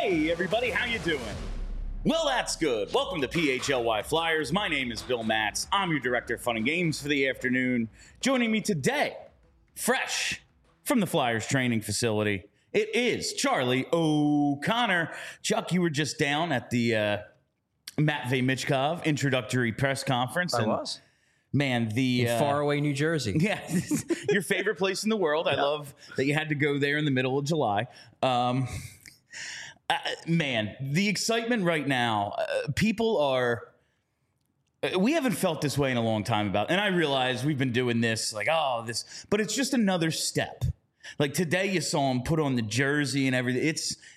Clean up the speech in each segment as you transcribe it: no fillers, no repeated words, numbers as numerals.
Hey, everybody, how you doing? Well, that's good. Welcome to PHLY Flyers. My name is Bill Matz. I'm your director of fun and games for the afternoon. Joining me today, fresh from the Flyers training facility, it is Charlie O'Connor. Chuck, you were just down at the Matvei Michkov introductory press conference. I was. Man, the faraway New Jersey. Yeah, your favorite place in the world. I love that you had to go there in the middle of July. Man, the excitement right now, people are. We haven't felt this way in a long time and I realize we've been doing this but it's just another step. Like today, you saw him put on the jersey and everything.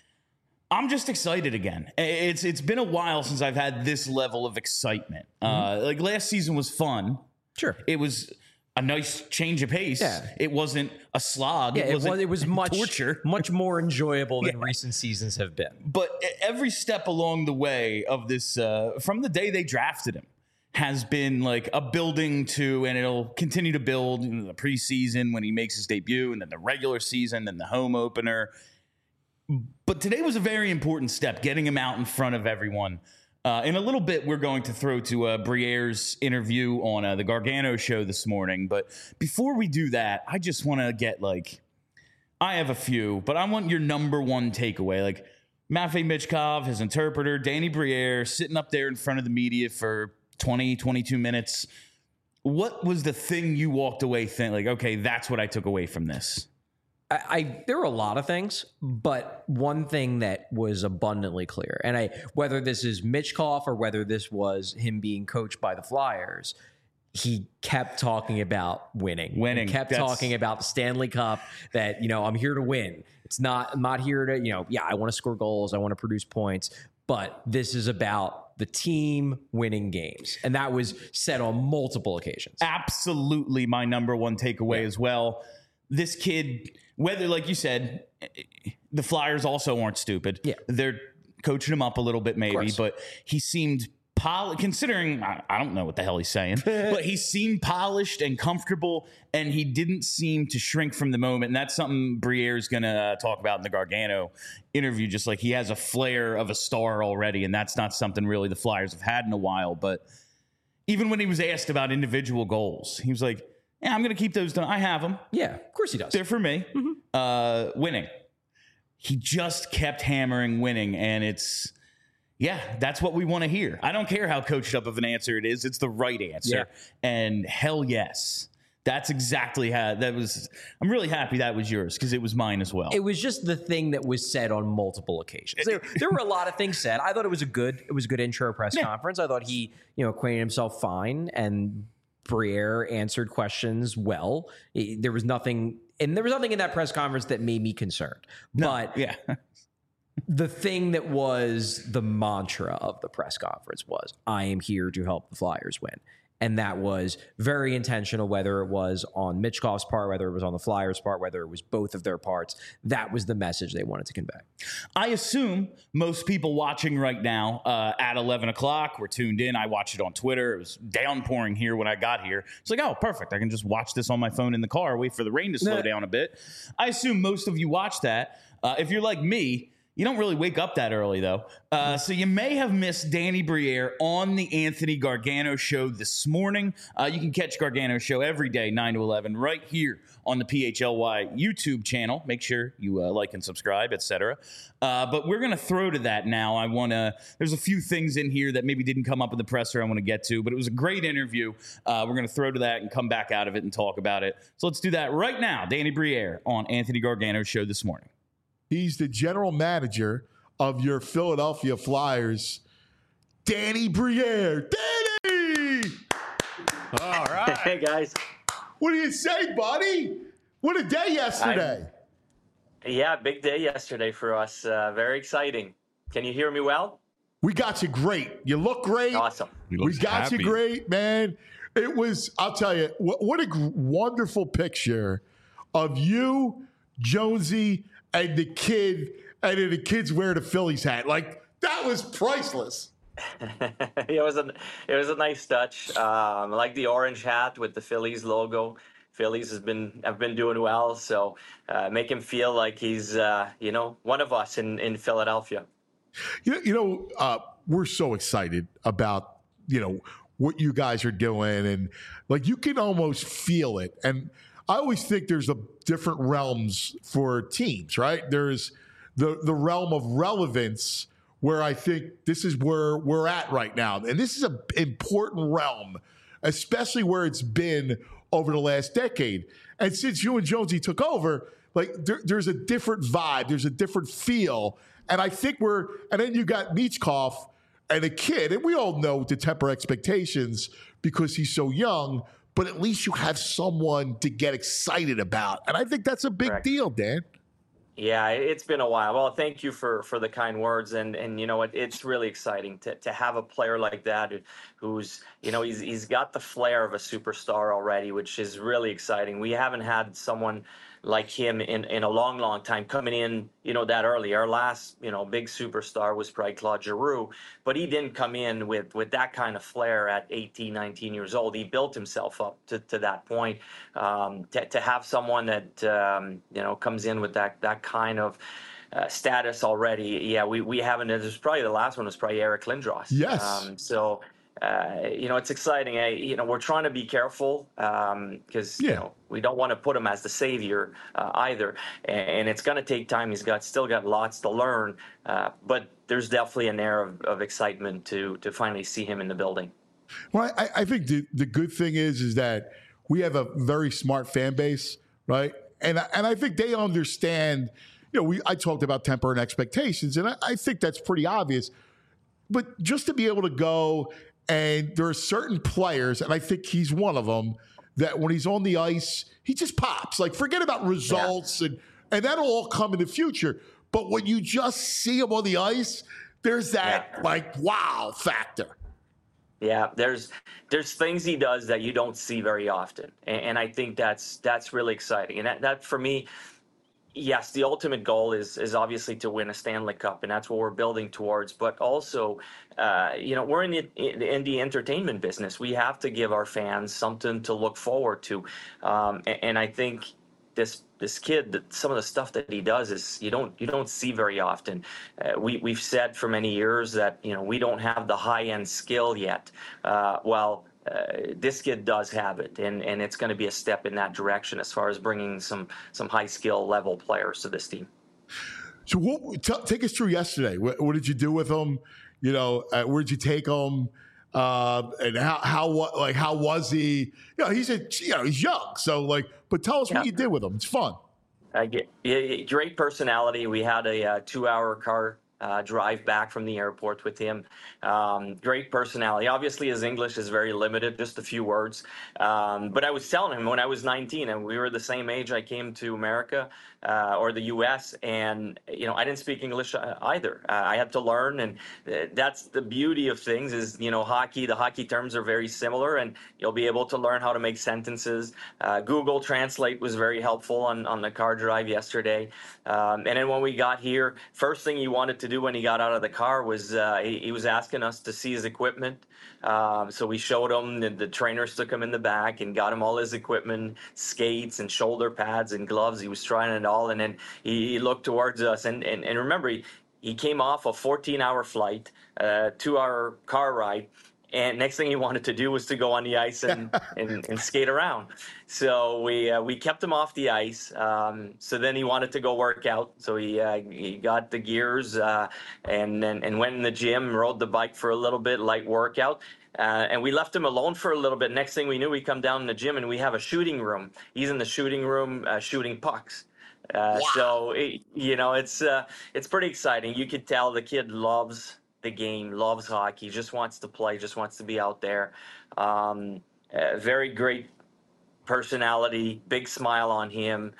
I'm just excited again. It's been a while since I've had this level of excitement. Like last season was fun. Sure. It was a nice change of pace. Yeah. It wasn't a slog. Yeah, it was much torture. Much more enjoyable than recent seasons have been. But every step along the way of this, from the day they drafted him, has been like a building to, and it'll continue to build in the preseason when he makes his debut, and then the regular season, and the home opener. But today was a very important step, getting him out in front of everyone. In a little bit, we're going to throw to Briere's interview on the Gargano show this morning. But before we do that, I just want to get I have a few, but I want your number one takeaway. Like Matvei Michkov, his interpreter, Danny Briere, sitting up there in front of the media for 20, 22 minutes. What was the thing you walked away thinking, like, okay, that's what I took away from this? There were a lot of things, but one thing that was abundantly clear, and whether this is Michkov or whether this was him being coached by the Flyers, he kept talking about winning. He kept talking about the Stanley Cup, that, I'm here to win. I'm not here to, I want to score goals. I want to produce points, but this is about the team winning games. And that was said on multiple occasions. Absolutely my number one takeaway as well. This kid, whether, like you said, the Flyers also aren't stupid. Yeah. They're coaching him up a little bit maybe, but he seemed considering, I don't know what the hell he's saying, but he seemed polished and comfortable, and he didn't seem to shrink from the moment. And that's something Briere's going to talk about in the Gargano interview, just like he has a flair of a star already, and that's not something really the Flyers have had in a while. But even when he was asked about individual goals, he was like, yeah, I'm going to keep those done. I have them. Yeah, of course he does. They're for me. Mm-hmm. Winning. He just kept hammering winning, and that's what we want to hear. I don't care how coached up of an answer it is. It's the right answer. Yeah. And hell yes. That's exactly how that was. I'm really happy that was yours because it was mine as well. It was just the thing that was said on multiple occasions. There were a lot of things said. I thought it was a good intro press conference. I thought he, acquainted himself fine, and Briere answered questions well. There was nothing in that press conference that made me concerned. But the thing that was the mantra of the press conference was, I am here to help the Flyers win. And that was very intentional, whether it was on Michkov's part, whether it was on the Flyers' part, whether it was both of their parts. That was the message they wanted to convey. I assume most people watching right now at 11 o'clock were tuned in. I watched it on Twitter. It was downpouring here when I got here. It's like, oh, perfect. I can just watch this on my phone in the car, wait for the rain to slow down a bit. I assume most of you watched that. If you're like me, you don't really wake up that early, though. So you may have missed Danny Briere on the Anthony Gargano show this morning. You can catch Gargano show every day, 9 to 11, right here on the PHLY YouTube channel. Make sure you like and subscribe, etc. But we're going to throw to that now. There's a few things in here that maybe didn't come up in the presser I want to get to, but it was a great interview. We're going to throw to that and come back out of it and talk about it. So let's do that right now. Danny Briere on Anthony Gargano show this morning. He's the general manager of your Philadelphia Flyers, Danny Briere. Danny! All right. Hey, guys. What do you say, buddy? What a day yesterday. Yeah, big day yesterday for us. Very exciting. Can you hear me well? We got you great. You look great. Awesome. We got you great, man. It was, I'll tell you, what a wonderful picture of you, Jonesy, and the kid, and then the kids wear the Phillies hat. Like, that was priceless. It was a nice touch. I like the orange hat with the Phillies logo. Phillies have been doing well, so make him feel like he's one of us in Philadelphia. We're so excited about, what you guys are doing, and like you can almost feel it. And I always think there's a different realms for teams, right? There's the realm of relevance where I think this is where we're at right now. And this is an important realm, especially where it's been over the last decade. And since you and Jonesy took over, like there's a different vibe, there's a different feel. And I think and then you got Michkov and a kid, and we all know to temper expectations because he's so young, but at least you have someone to get excited about. And I think that's a big deal, Dan. Yeah, it's been a while. Well, thank you for the kind words, and you know what, it's really exciting to have a player like that who's he's got the flair of a superstar already, which is really exciting. We haven't had someone like him in a long time coming in that early. Our last big superstar was probably Claude Giroux, but he didn't come in with that kind of flair at 18, 19 years old. He built himself up to that point. To have someone that comes in with that kind of status already, yeah, we haven't. There's probably the last one was probably Eric Lindros. Yes. It's exciting. We're trying to be careful because we don't want to put him as the savior either, and it's going to take time. He's still got lots to learn, but there's definitely an air of excitement to finally see him in the building. Well, I think the good thing is that we have a very smart fan base, right? And I think they understand. I talked about temper and expectations, and I think that's pretty obvious. But just to be able to go. And there are certain players, and I think he's one of them, that when he's on the ice, he just pops. Like, forget about results, and that'll all come in the future. But when you just see him on the ice, there's that, wow factor. Yeah, there's things he does that you don't see very often. And I think that's really exciting. And that for me, yes, the ultimate goal is obviously to win a Stanley Cup, and that's what we're building towards. But also, we're in the entertainment business. We have to give our fans something to look forward to, and I think this kid, some of the stuff that he does is you don't see very often. We've said for many years that we don't have the high end skill yet. This kid does have it, and it's going to be a step in that direction as far as bringing some high skill level players to this team. So take us through yesterday. What did you do with him? Where'd you take him? And how was he? He's young, so but tell us what you did with him. It's fun. Great personality. We had a 2-hour car drive back from the airport with him. Great personality. Obviously, his English is very limited, just a few words. But I was telling him when I was 19, and we were the same age, I came to America or the U.S., and I didn't speak English either. I had to learn, and that's the beauty of things is, hockey, the hockey terms are very similar, and you'll be able to learn how to make sentences. Google Translate was very helpful on the car drive yesterday. And then when we got here, first thing he wanted to do when he got out of the car was he was asking us to see his equipment. So we showed him, the trainers took him in the back and got him all his equipment, skates and shoulder pads and gloves. He was trying it all, and then he looked towards us. And remember, he came off a 14-hour flight, 2-hour car ride. And next thing he wanted to do was to go on the ice and skate around. So we kept him off the ice. So then he wanted to go work out. So he got the gears and went in the gym, rode the bike for a little bit, light workout. And we left him alone for a little bit. Next thing we knew, we come down in the gym and we have a shooting room. He's in the shooting room shooting pucks. Wow. So it's pretty exciting. You could tell the kid loves the game, loves hockey, just wants to play, just wants to be out there. Very great personality, big smile on him.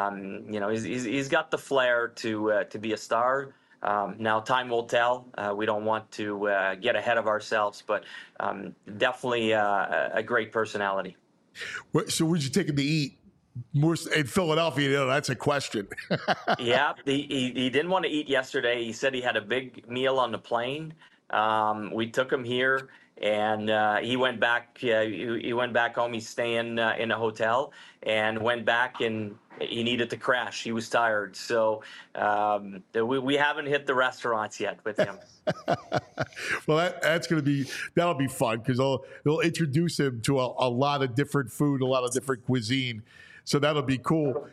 He's got the flair to be a star. Now time will tell. We don't want to get ahead of ourselves, but definitely a great personality. So where'd you take him to eat? More in Philadelphia, that's a question. Yeah, he didn't want to eat yesterday. He said he had a big meal on the plane. We took him here. And he went back. He went back home. He's staying in a hotel, and went back, and he needed to crash. He was tired. So we haven't hit the restaurants yet with him. Well, that'll be fun because they'll introduce him to a lot of different food, a lot of different cuisine. So that'll be cool.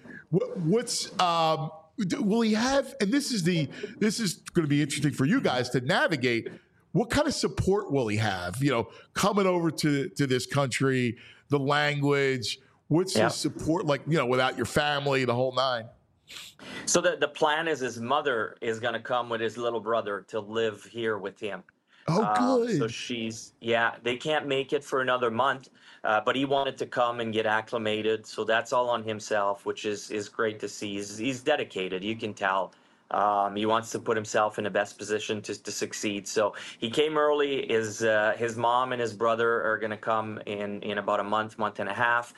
Will he have? And this is going to be interesting for you guys to navigate. What kind of support will he have? Coming over to this country, the language. What's his support like? Without your family, the whole nine. So the plan is his mother is going to come with his little brother to live here with him. Oh, good. So they can't make it for another month, but he wanted to come and get acclimated. So that's all on himself, which is great to see. He's dedicated. You can tell. He wants to put himself in the best position to succeed. So he came early. His mom and his brother are going to come in about a month and a half.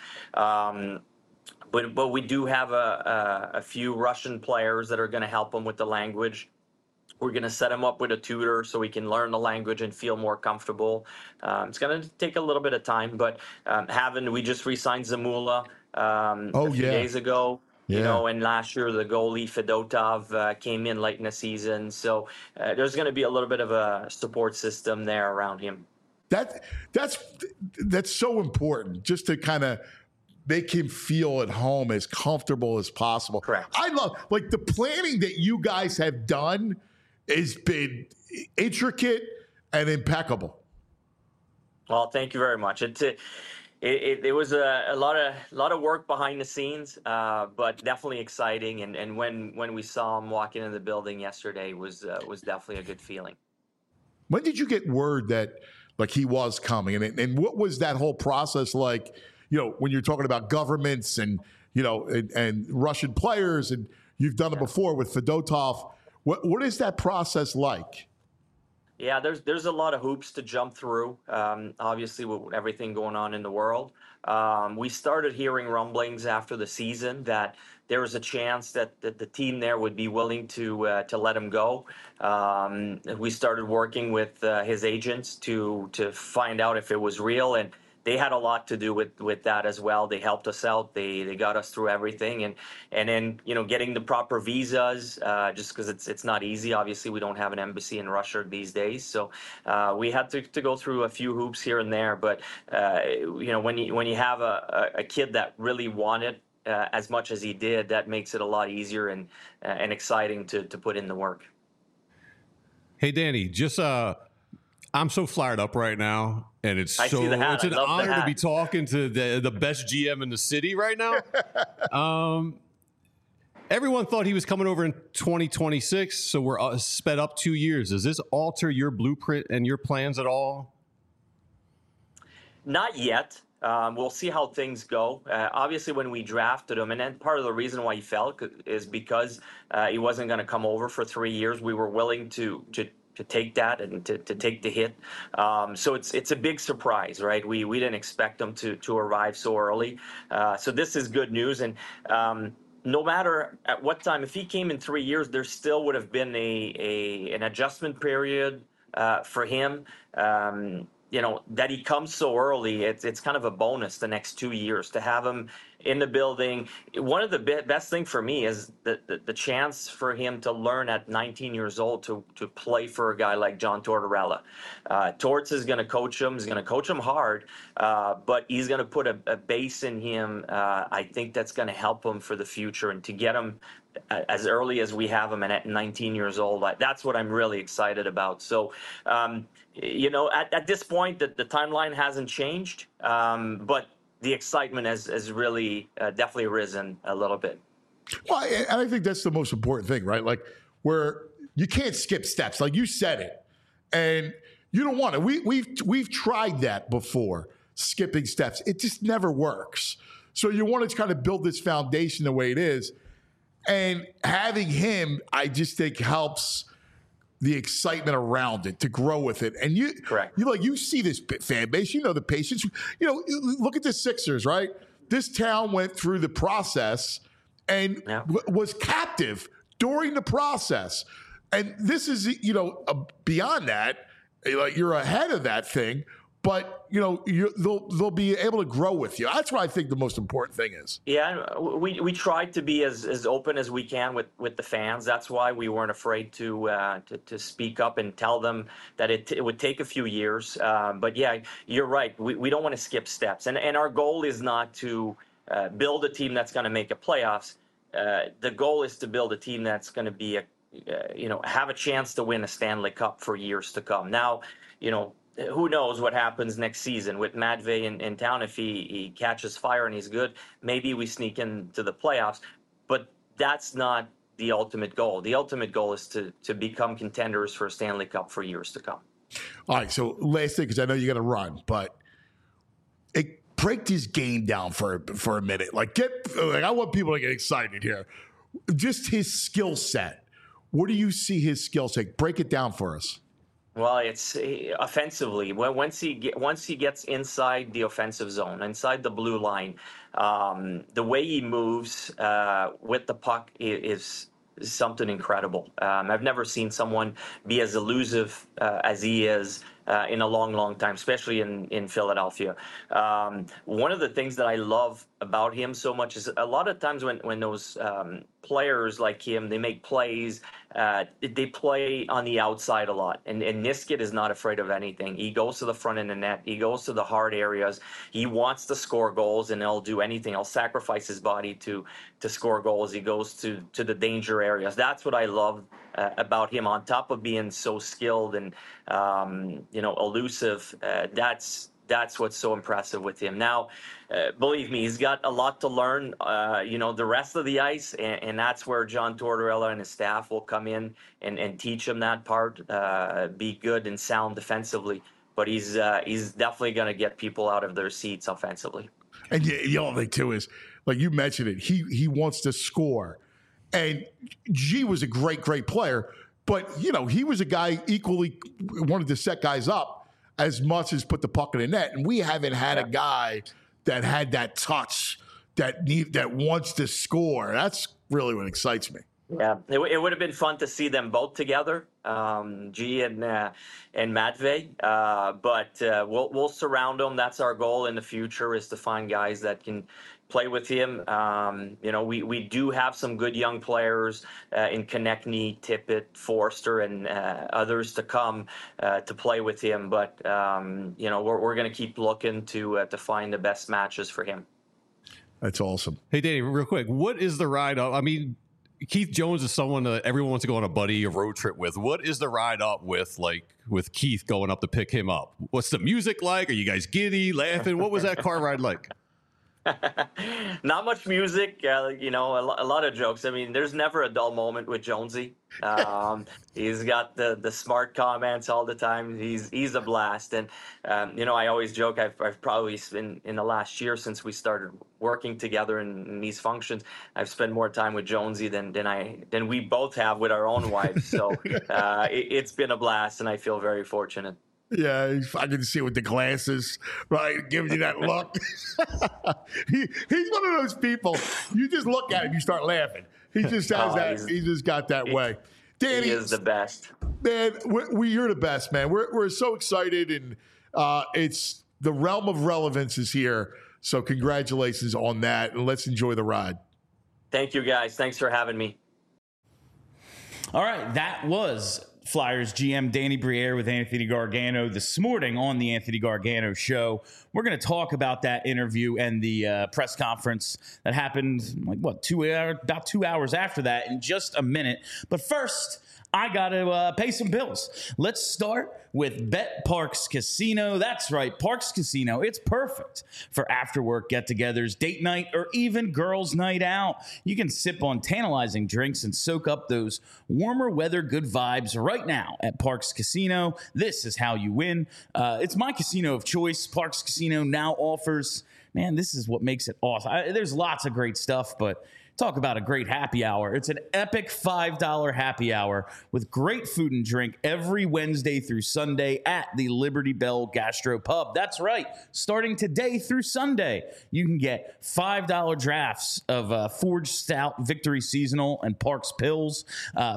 But we do have a few Russian players that are going to help him with the language. We're going to set him up with a tutor so he can learn the language and feel more comfortable. It's going to take a little bit of time, but we just re-signed Zamula a few days ago. Yeah. And last year the goalie Fedotov came in late in the season. So there's going to be a little bit of a support system there around him. That's so important, just to kind of make him feel at home, as comfortable as possible. Correct. I love the planning that you guys have done has been intricate and impeccable. Well, thank you very much. It was a lot of work behind the scenes, but definitely exciting. And when we saw him walking in the building yesterday was definitely a good feeling. When did you get word that he was coming, and what was that whole process like? When you're talking about governments and and Russian players, and you've done it before with Fedotov. What is that process like? Yeah, there's a lot of hoops to jump through, obviously, with everything going on in the world. We started hearing rumblings after the season that there was a chance that the team there would be willing to let him go. We started working with his agents to find out if it was real, and they had a lot to do with that as well. They helped us out. They got us through everything, and then getting the proper visas, just because it's not easy. Obviously, we don't have an embassy in Russia these days, so we had to go through a few hoops here and there. But when you have a kid that really wanted as much as he did, that makes it a lot easier and exciting to put in the work. Hey, Danny, just I'm so fired up right now, and it's an honor to be talking to the best GM in the city right now. Everyone thought he was coming over in 2026, so we're sped up 2 years. Does this alter your blueprint and your plans at all? Not yet. We'll see how things go. Obviously, when we drafted him, and then part of the reason why he fell is because he wasn't going to come over for 3 years. We were willing to take that and to take the hit. So it's a big surprise, right? We didn't expect him to arrive so early. So this is good news. And no matter at what time, if he came in 3 years, there still would have been an adjustment period for him. That he comes so early, it's kind of a bonus the next 2 years to have him in the building. One of the best thing for me is the chance for him to learn at 19 years old to play for a guy like John Tortorella. Torts is going to coach him. He's going to coach him hard, but he's going to put a base in him. I think that's going to help him for the future, and to get him as early as we have him and at 19 years old, that's what I'm really excited about. So, at this point, the timeline hasn't changed, but the excitement has really definitely risen a little bit. Well, and I think that's the most important thing, right? Where you can't skip steps, like you said it, and you don't want to. We've tried that before, skipping steps. It just never works. So you want to kind of build this foundation the way it is. And having him, I just think, helps the excitement around it to grow with it. And you see this fan base, the patience. Look at the Sixers, right? This town went through the process and was captive during the process. And this is, beyond that, Like you're ahead of that thing, but they'll be able to grow with you. That's what I think the most important thing is. Yeah, we tried to be as open as we can with the fans. That's why we weren't afraid to speak up and tell them that it would take a few years. But yeah, you're right. We don't want to skip steps, and our goal is not to build a team that's going to make a playoffs. The goal is to build a team that's going to be have a chance to win a Stanley Cup for years to come. Now, who knows what happens next season with Matvey in town. If he catches fire and he's good, maybe we sneak into the playoffs. But that's not the ultimate goal. The ultimate goal is to become contenders for a Stanley Cup for years to come. All right, so last thing, because I know you got to run, but break this game down for a minute. I want people to get excited here. Just his skill set. What do you see his skill set? Break it down for us. Well, it's offensively. Once he gets inside the offensive zone, inside the blue line, the way he moves with the puck is something incredible. I've never seen someone be as elusive as he is in a long, long time, especially in Philadelphia. One of the things that I love about him so much is a lot of times when those players like him, they make plays, they play on the outside a lot. And Niskanen is not afraid of anything. He goes to the front of the net. He goes to the hard areas. He wants to score goals, and he'll do anything. He'll sacrifice his body to score goals. He goes to the danger areas. That's what I love about him. On top of being so skilled and elusive, that's what's so impressive with him. Now, believe me, he's got a lot to learn, the rest of the ice, and that's where John Tortorella and his staff will come in and teach him that part, be good and sound defensively. But he's definitely going to get people out of their seats offensively. And the other thing, too, is, like you mentioned it, he wants to score. And G was a great, great player, but, he was a guy equally wanted to set guys up as much as put the puck in the net. And we haven't had a guy that had that touch that wants to score. That's really what excites me. Yeah, it would have been fun to see them both together, G and Matvey. But we'll surround them. That's our goal in the future, is to find guys that can play with him. We do have some good young players in Konechny, Tippett, Forster, and others to come to play with him. But we're going to keep looking to find the best matches for him. That's awesome. Hey, Danny, real quick, what is the ride up? I mean, Keith Jones is someone that everyone wants to go on a buddy, a road trip with. What is the ride up with Keith going up to pick him up? What's the music like? Are you guys giddy, laughing? What was that car ride like? Not much music, a lot of jokes. I mean, there's never a dull moment with Jonesy. He's got the smart comments all the time. He's a blast. And, I always joke, I've probably been in the last year since we started working together in these functions, I've spent more time with Jonesy than we both have with our own wives. So it's been a blast, and I feel very fortunate. Yeah, I can see it with the glasses, right? Giving you that look. He's one of those people, you just look at him, you start laughing. He just has he just got that way. Danny, he is the best. Man, you're the best, man. We're so excited, and it's the realm of relevance is here. So congratulations on that, and let's enjoy the ride. Thank you, guys. Thanks for having me. All right, that was Flyers GM Danny Briere with Anthony Gargano this morning on the Anthony Gargano Show. We're going to talk about that interview and the press conference that happened about 2 hours after that in just a minute. But first, I got to pay some bills. Let's start with Bet Parks Casino. That's right, Parks Casino. It's perfect for after-work get-togethers, date night, or even girls' night out. You can sip on tantalizing drinks and soak up those warmer weather good vibes right now at Parks Casino. This is how you win. It's my casino of choice. Parks Casino now offers, man, this is what makes it awesome. There's lots of great stuff, but Talk about a great happy hour. It's an epic $5 happy hour with great food and drink every Wednesday through Sunday at the Liberty Bell Gastro Pub. That's right. Starting today through Sunday, you can get $5 drafts of Forged Stout Victory Seasonal and Parks Pills,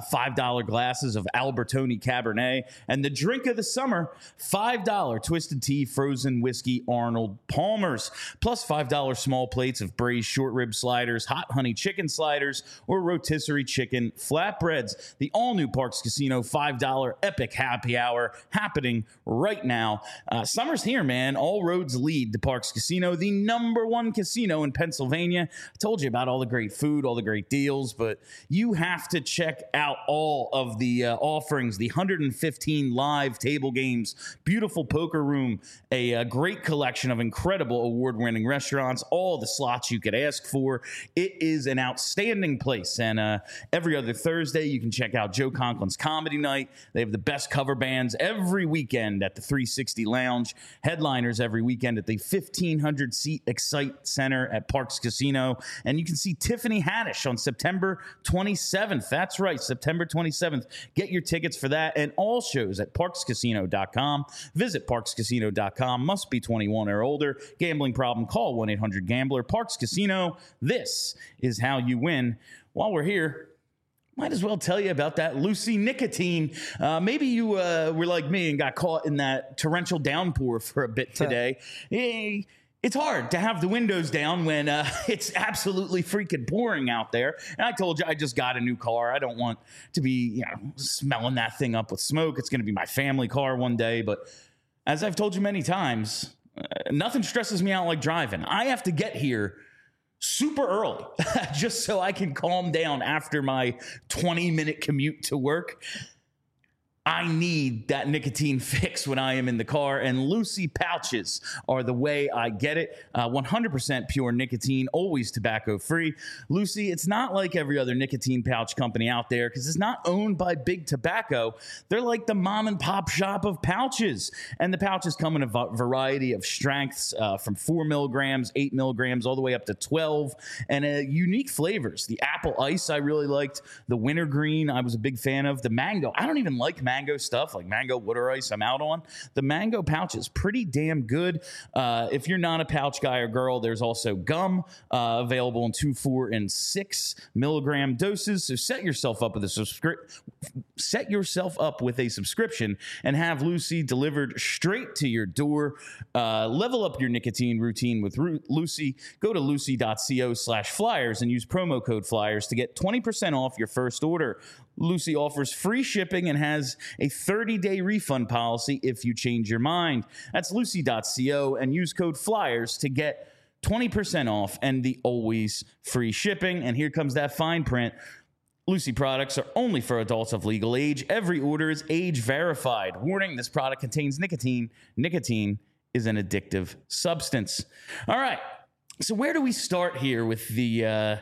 $5 glasses of Albertoni Cabernet, and the drink of the summer, $5 Twisted Tea Frozen Whiskey Arnold Palmer's, plus $5 small plates of braised short rib sliders, hot honey chicken sliders, or rotisserie chicken flatbreads. The all-new Parks Casino $5 epic happy hour happening right now. Summer's here, man. All roads lead to Parks Casino, the #1 casino in Pennsylvania. I told you about all the great food, all the great deals, but you have to check out all of the offerings, the 115 live table games, beautiful poker room, a great collection of incredible award-winning restaurants, all the slots you could ask for. It is an outstanding place. And every other Thursday, you can check out Joe Conklin's Comedy Night. They have the best cover bands every weekend at the 360 Lounge, headliners every weekend at the 1,500-seat Excite Center at Parks Casino. And you can see Tiffany Haddish on September 27th. That's right, September 27th. Get your tickets for that and all shows at parkscasino.com. Visit parkscasino.com. Must be 21 or older. Gambling problem? Call 1-800-GAMBLER. Parks Casino. This is how you win. While we're here, might as well tell you about that Lucy nicotine. Maybe you were like me and got caught in that torrential downpour for a bit today. It's hard to have the windows down when it's absolutely freaking pouring out there. And I told you I just got a new car. I don't want to be smelling that thing up with smoke. It's going to be my family car one day. But as I've told you many times, nothing stresses me out like driving. I have to get here super early just so I can calm down after my 20-minute commute to work. I need that nicotine fix when I am in the car, and Lucy pouches are the way I get it. 100% pure nicotine, always tobacco-free. Lucy, it's not like every other nicotine pouch company out there because it's not owned by Big Tobacco. They're like the mom-and-pop shop of pouches, and the pouches come in a variety of strengths from 4 milligrams, 8 milligrams, all the way up to 12, and unique flavors. The apple ice I really liked. The wintergreen I was a big fan of. The mango. I don't even like mango stuff like mango water ice. I'm out on the mango pouch is pretty damn good. If you're not a pouch guy or girl, there's also gum available in 2, 4, and 6 milligram doses. So set yourself up with a subscription and have Lucy delivered straight to your door. Level up your nicotine routine with Lucy. Go to lucy.co/flyers and use promo code FLYERS to get 20% off your first order. Lucy offers free shipping and has a 30-day refund policy if you change your mind. That's lucy.co and use code FLYERS to get 20% off and the always free shipping. And here comes that fine print. Lucy products are only for adults of legal age. Every order is age verified. Warning, this product contains nicotine. Nicotine is an addictive substance. All right. So where do we start here with the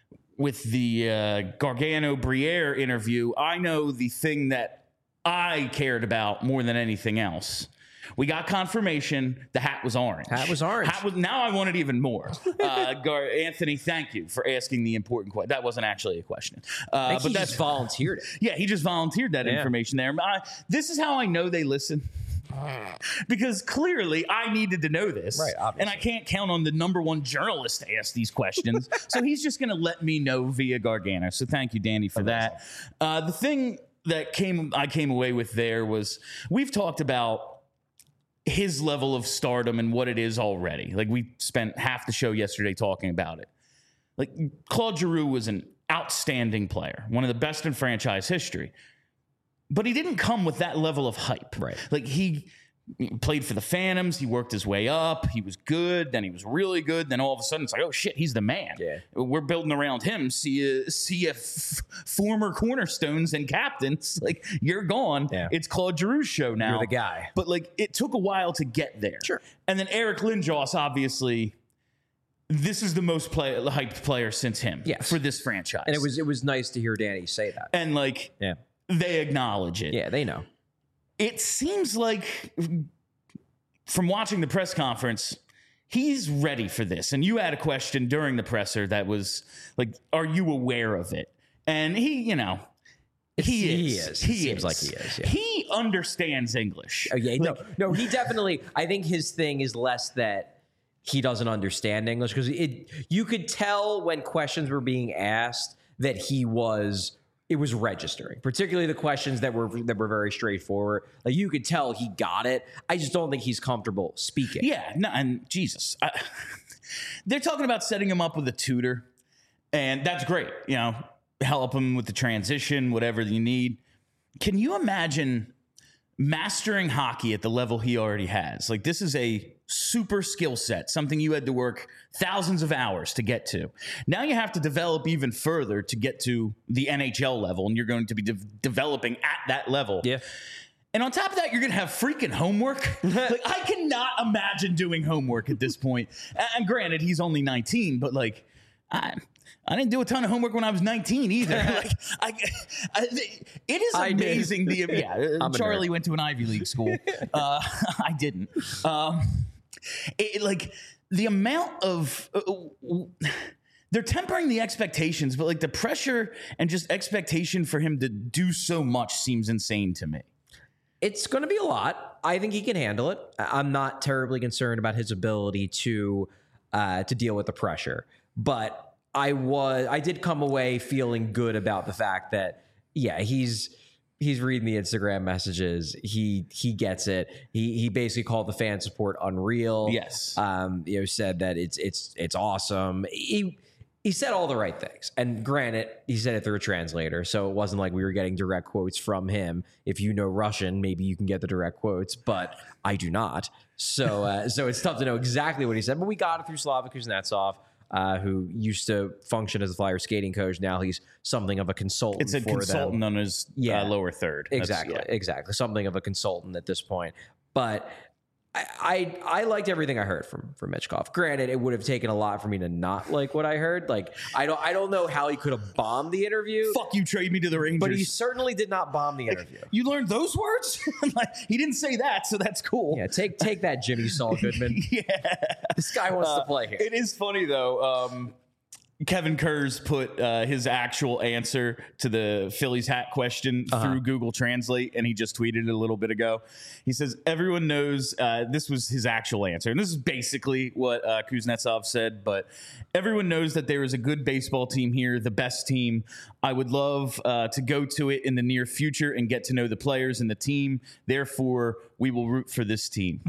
Gargano-Briere interview? I know the thing that I cared about more than anything else. We got confirmation the hat was orange. Now I want it even more. Anthony, thank you for asking the important question. That wasn't actually a question. But he just volunteered it. Yeah, he just volunteered that information there. This is how I know they listen. Because clearly I needed to know this. Right, obviously. And I can't count on the #1 journalist to ask these questions. So he's just going to let me know via Gargano. So thank you, Danny, for that. The thing that I came away with there was we've talked about his level of stardom and what it is already. Like, we spent half the show yesterday talking about it. Like, Claude Giroux was an outstanding player, one of the best in franchise history. But he didn't come with that level of hype. Right. Like, he played for the Phantoms. He worked his way up. He was good. Then he was really good. Then all of a sudden it's like, oh, shit, he's the man. Yeah. We're building around him. See former cornerstones and captains. Like, you're gone. Yeah. It's Claude Giroux's show now. You're the guy. But, like, it took a while to get there. Sure. And then Eric Lindros, obviously, this is the most hyped player since him for this franchise. And it was nice to hear Danny say that. And, like, they acknowledge it. Yeah, they know. It seems like, from watching the press conference, he's ready for this. And you had a question during the presser that was like, are you aware of it? And he, he is. He seems like he is. Yeah. He understands English. Oh, yeah, no, he definitely. I think his thing is less that he doesn't understand English, because you could tell when questions were being asked that it was registering, particularly the questions that were very straightforward. Like, you could tell he got it. I just don't think he's comfortable speaking. Yeah, no, and Jesus, they're talking about setting him up with a tutor, and that's great. Help him with the transition, whatever you need. Can you imagine mastering hockey at the level he already has? Like, this is a super skill set, something you had to work thousands of hours to get to. Now you have to develop even further to get to the NHL level, and you're going to be developing at that level. Yeah. And on top of that, you're going to have freaking homework. Like, I cannot imagine doing homework at this point. And granted, he's only 19, but like, I didn't do a ton of homework when I was 19 either. It is amazing. Charlie went to an Ivy League school. I didn't. The amount of they're tempering the expectations, but like the pressure and just expectation for him to do so much seems insane to me. It's going to be a lot. I think he can handle it. I'm not terribly concerned about his ability to deal with the pressure, but I did come away feeling good about the fact that, yeah, he's reading the Instagram messages. He gets it. He basically called the fan support unreal. Yes. Said that it's awesome. He said all the right things. And granted, he said it through a translator, so it wasn't like we were getting direct quotes from him. If you know Russian, maybe you can get the direct quotes, but I do not. So it's tough to know exactly what he said. But we got it through Slava Kuznetsov, who used to function as a Flyer skating coach. Now he's something of a consultant. It's a consultant on his lower third. Exactly. Something of a consultant at this point. But I liked everything I heard from Michkov. Granted, it would have taken a lot for me to not like what I heard. Like, I don't know how he could have bombed the interview. Fuck you, trade me to the Rangers. But he certainly did not bomb the interview. You learned those words? He didn't say that, so that's cool. Yeah, take that, Jimmy Saul Goodman. Yeah. This guy wants to play here. It is funny, though. Kevin Kurz put his actual answer to the Phillies hat question through Google Translate, and he just tweeted it a little bit ago. He says, everyone knows, this was his actual answer, and this is basically what Kuznetsov said, but everyone knows that there is a good baseball team here, the best team. I would love to go to it in the near future and get to know the players and the team. Therefore, we will root for this team.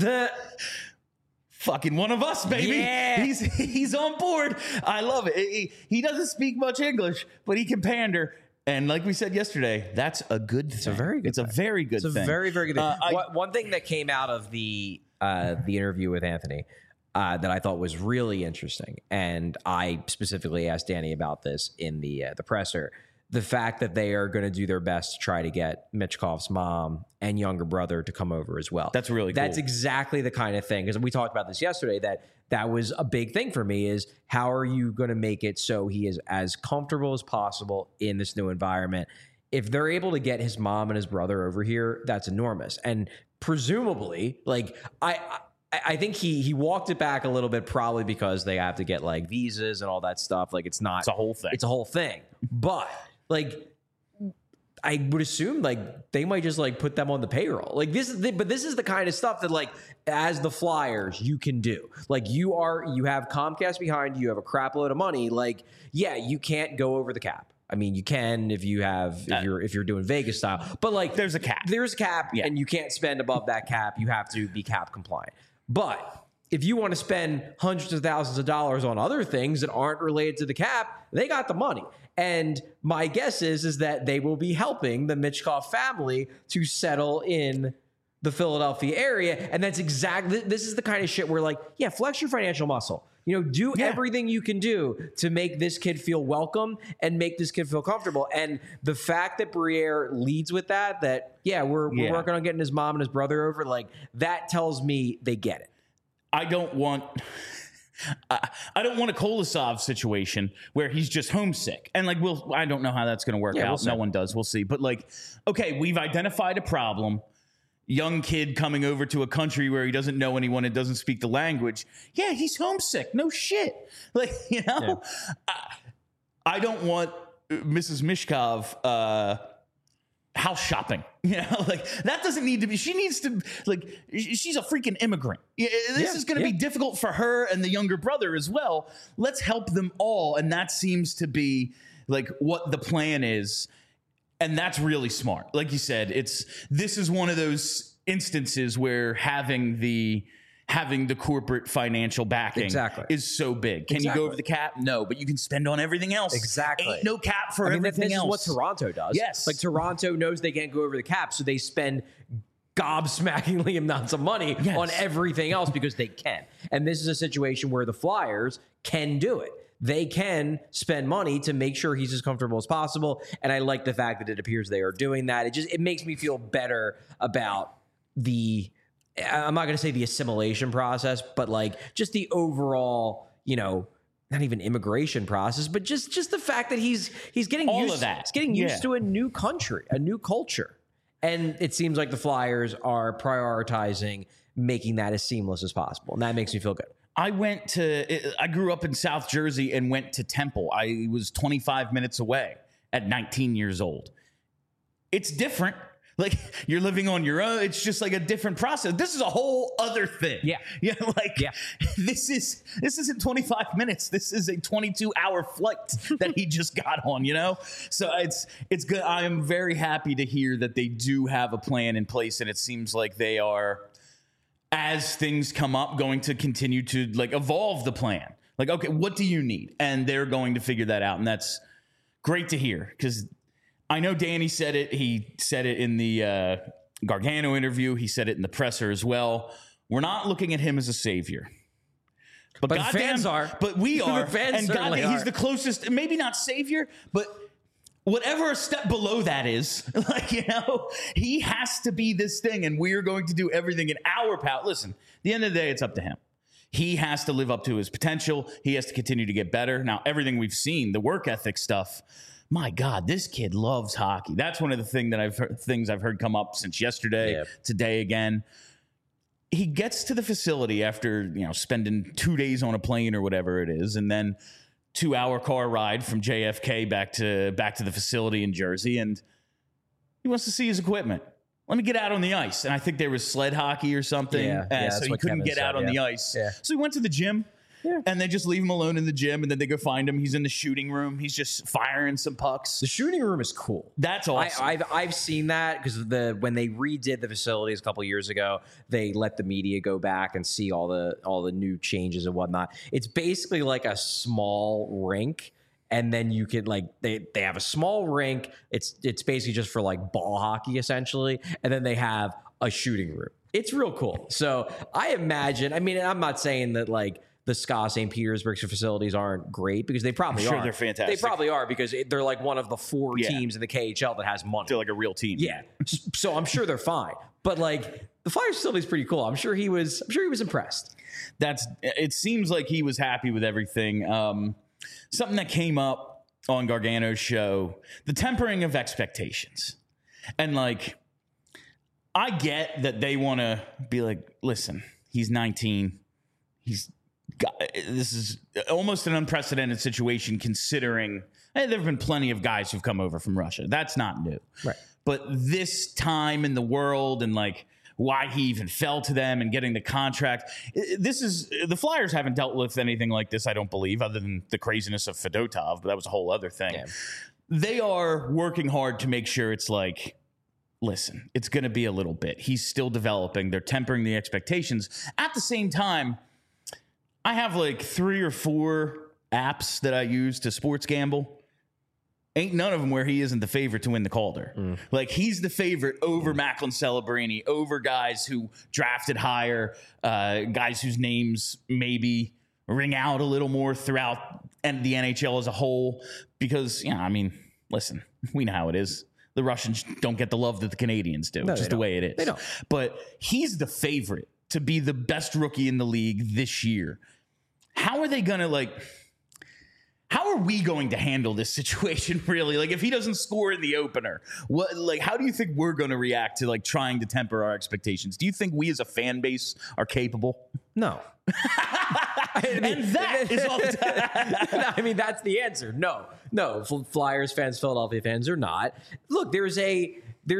Fucking one of us, baby. Yeah. He's on board. I love it. He doesn't speak much English, but he can pander. And like we said yesterday, that's a good thing. It's a very good thing. It's a very good thing. It's a very, very good thing. One thing that came out of the interview with Anthony that I thought was really interesting, and I specifically asked Danny about this in the presser, the fact that they are going to do their best to try to get Michkov's mom and younger brother to come over as well. That's really cool. That's exactly the kind of thing, because we talked about this yesterday, that was a big thing for me, is how are you going to make it so he is as comfortable as possible in this new environment? If they're able to get his mom and his brother over here, that's enormous. And presumably, like, I think he walked it back a little bit, probably because they have to get like visas and all that stuff. Like, it's a whole thing. It's a whole thing. But like, I would assume like they might just like put them on the payroll. Like, this is the kind of stuff that, like, as the Flyers, you can do. Like, you have Comcast behind you, you have a crap load of money. Like, yeah, you can't go over the cap. I mean, you can if you're doing Vegas style, but like, there's a cap. There's a cap, and you can't spend above that cap. You have to be cap compliant. But if you want to spend hundreds of thousands of dollars on other things that aren't related to the cap, they got the money. And my guess is that they will be helping the Michkov family to settle in the Philadelphia area. And that's exactly, this is the kind of shit where, like, yeah, flex your financial muscle. Do everything you can do to make this kid feel welcome and make this kid feel comfortable. And the fact that Briere leads with that we're working on getting his mom and his brother over, like, that tells me they get it. I don't want a Kolosov situation where he's just homesick. And like, I don't know how that's going to work out. No one does. We'll see. But like, okay, we've identified a problem. young kid coming over to a country where he doesn't know anyone and doesn't speak the language. Yeah, he's homesick. No shit. Like, you know, I don't want Mrs. Mishkov house shopping. You know, like that doesn't need to be. She needs to, like, she's a freaking immigrant. This is going to be difficult for her and the younger brother as well. Let's help them all. And that seems to be like what the plan is. And that's really smart. Like you said, this is one of those instances where having the corporate financial backing is so big. Can you go over the cap? No, but you can spend on everything else. Exactly. Ain't no cap for everything else. This is what Toronto does. Yes. Like Toronto knows they can't go over the cap, so they spend gobsmackingly amounts of money on everything else because they can. And this is a situation where the Flyers can do it. They can spend money to make sure he's as comfortable as possible. And I like the fact that it appears they are doing that. It makes me feel better about I'm not going to say the assimilation process, but like just the overall, you know, not even immigration process, but just the fact that he's getting all used of that. He's getting used to a new country, a new culture. And it seems like the Flyers are prioritizing making that as seamless as possible. And that makes me feel good. I grew up in South Jersey and went to Temple. I was 25 minutes away at 19 years old. It's different. Like, you're living on your own. It's just like a different process. This is a whole other thing. Yeah. You know, like this isn't 25 minutes. This is a 22-hour flight that he just got on, you know? So it's good. I am very happy to hear that they do have a plan in place, and it seems like they are, as things come up, going to continue to like evolve the plan. Like, okay, what do you need? And they're going to figure that out. And that's great to hear, because I know Danny said it. He said it in the Gargano interview. He said it in the presser as well. We're not looking at him as a savior. But fans are. But we are. Fans and certainly he's are. the closest, maybe not savior, but whatever a step below that is, like, you know, he has to be this thing, and we're going to do everything in our power. Listen, at the end of the day, it's up to him. He has to live up to his potential. He has to continue to get better. Now, everything we've seen, the work ethic stuff, my God, this kid loves hockey. That's one of the things I've heard come up since yesterday, today again. He gets to the facility after, you know, spending 2 days on a plane or whatever it is, and then 2-hour car ride from JFK back to the facility in Jersey, and he wants to see his equipment. Let me get out on the ice. And I think there was sled hockey or something, so he couldn't get out on the ice. Yeah. So he went to the gym. Yeah. And they just leave him alone in the gym, and then they go find him. He's in the shooting room. He's just firing some pucks. The shooting room is cool. That's awesome. I've seen that because when they redid the facilities a couple years ago, they let the media go back and see all the new changes and whatnot. It's basically like a small rink, and then you could like they have a small rink. It's basically just for like ball hockey essentially, and then they have a shooting room. It's real cool. So I imagine. I mean, I'm not saying that like the SKA St. Petersburg facilities aren't great, because they probably are. They're fantastic. They probably are, because they're like one of the 4 teams in the KHL that has money. They're like a real team. Yeah. So I'm sure they're fine. But like the Flyers facility is pretty cool. I'm sure he was impressed. It seems like he was happy with everything. Something that came up on Gargano's show, the tempering of expectations. And like, I get that they want to be like, listen, he's 19. This is almost an unprecedented situation, considering there have been plenty of guys who've come over from Russia. That's not new. Right. But this time in the world, and like why he even fell to them and getting the contract, the Flyers haven't dealt with anything like this, I don't believe, other than the craziness of Fedotov, but that was a whole other thing. Yeah. They are working hard to make sure it's like, listen, it's going to be a little bit. He's still developing. They're tempering the expectations. At the same time, I have like 3 or 4 apps that I use to sports gamble. Ain't none of them where he isn't the favorite to win the Calder. Like, he's the favorite over Macklin Celebrini, over guys who drafted higher, guys whose names maybe ring out a little more throughout the NHL as a whole. Because, I mean, listen, we know how it is. The Russians don't get the love that the Canadians do. It's just the way it is. They don't. But he's the favorite to be the best rookie in the league this year. How are they going to, like, How are we going to handle this situation, really? Like, if he doesn't score in the opener, how do you think we're going to react to, like, trying to temper our expectations? Do you think we as a fan base are capable? No. And that is all the time. I mean, that's the answer. No. Flyers fans, Philadelphia fans are not. Look, there's a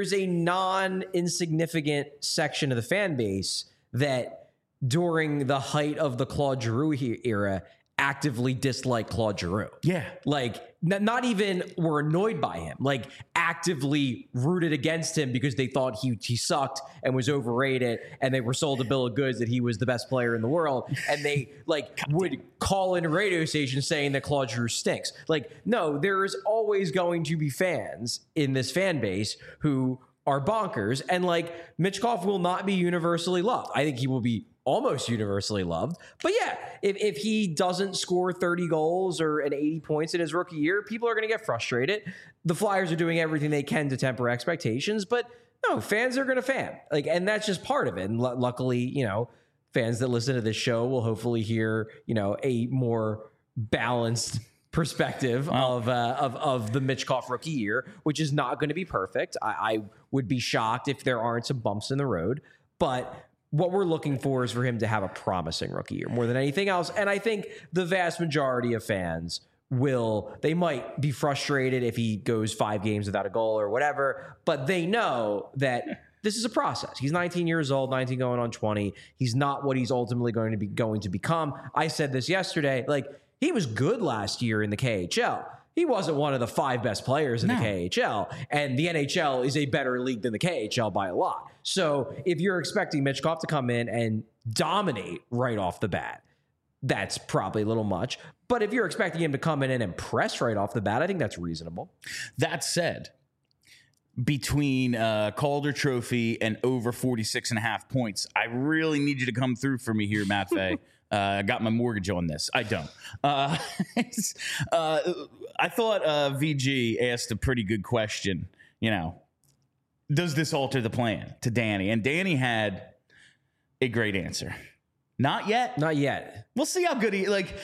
non-insignificant section of the fan base that during the height of the Claude Giroux era actively dislike Claude Giroux. Yeah. Like, not even were annoyed by him, like actively rooted against him because they thought he sucked and was overrated, and they were sold a bill of goods that he was the best player in the world, and they would call in a radio station saying that Claude Giroux stinks. Like, no, there is always going to be fans in this fan base who are bonkers, and like Michkov will not be universally loved. I think he will be almost universally loved. But yeah, if he doesn't score 30 goals or 80 points in his rookie year, people are going to get frustrated. The Flyers are doing everything they can to temper expectations, but no, fans are going to fan. Like, and that's just part of it. And luckily, fans that listen to this show will hopefully hear, a more balanced perspective of the Michkov rookie year, which is not going to be perfect. I would be shocked if there aren't some bumps in the road, but what we're looking for is for him to have a promising rookie year more than anything else. And I think the vast majority of fans they might be frustrated if he goes 5 games without a goal or whatever, but they know that this is a process. He's 19 years old, 19 going on 20. He's not what he's ultimately going to become. I said this yesterday, he was good last year in the KHL. He wasn't one of the 5 best players in the KHL, and the NHL is a better league than the KHL by a lot. So if you're expecting Michkov to come in and dominate right off the bat, that's probably a little much. But if you're expecting him to come in and impress right off the bat, I think that's reasonable. That said, between Calder Trophy and over 46.5 points, I really need you to come through for me here, Matt Fay. I got my mortgage on this. I don't. I thought VG asked a pretty good question. Does this alter the plan to Danny? And Danny had a great answer. Not yet. Not yet. We'll see how good he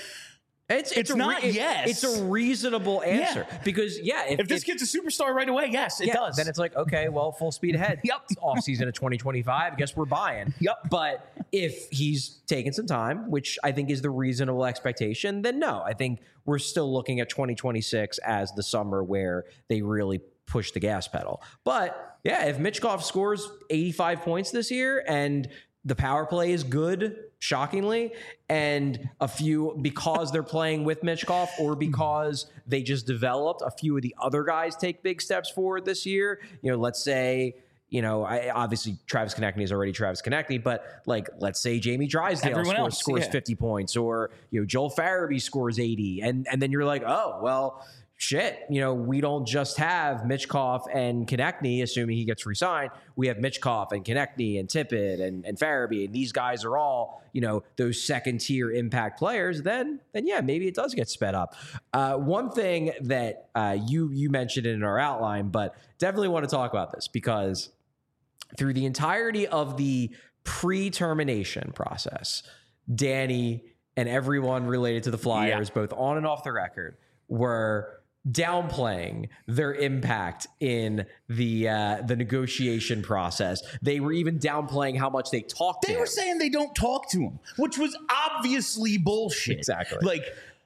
It's not yes. It's a reasonable answer because if this kid's a superstar right away, yes, it does. Then it's like, okay, well, full speed ahead. Yep. Off season of 2025. I guess we're buying. Yep. But if he's taking some time, which I think is the reasonable expectation, then no, I think we're still looking at 2026 as the summer where they really push the gas pedal. But yeah, if Michkov scores 85 points this year and the power play is good, shockingly, and because they're playing with Michkov or because they just developed, a few of the other guys take big steps forward this year. Let's say, obviously Travis Konechny is already Travis Konechny, but let's say Jamie Drysdale scores 50 points, or Joel Farabee scores 80, and then you're like, oh well, shit, we don't just have Michkov and Konechny, assuming he gets re-signed. We have Michkov and Konechny and Tippett and Farabee, and these guys are all, those second-tier impact players. Then yeah, maybe it does get sped up. One thing that you mentioned in our outline, but definitely want to talk about this because through the entirety of the pre-termination process, Danny and everyone related to the Flyers, both on and off the record, were downplaying their impact in the negotiation process. They were even downplaying how much they talked to him. They were saying they don't talk to him, which was obviously bullshit. Exactly.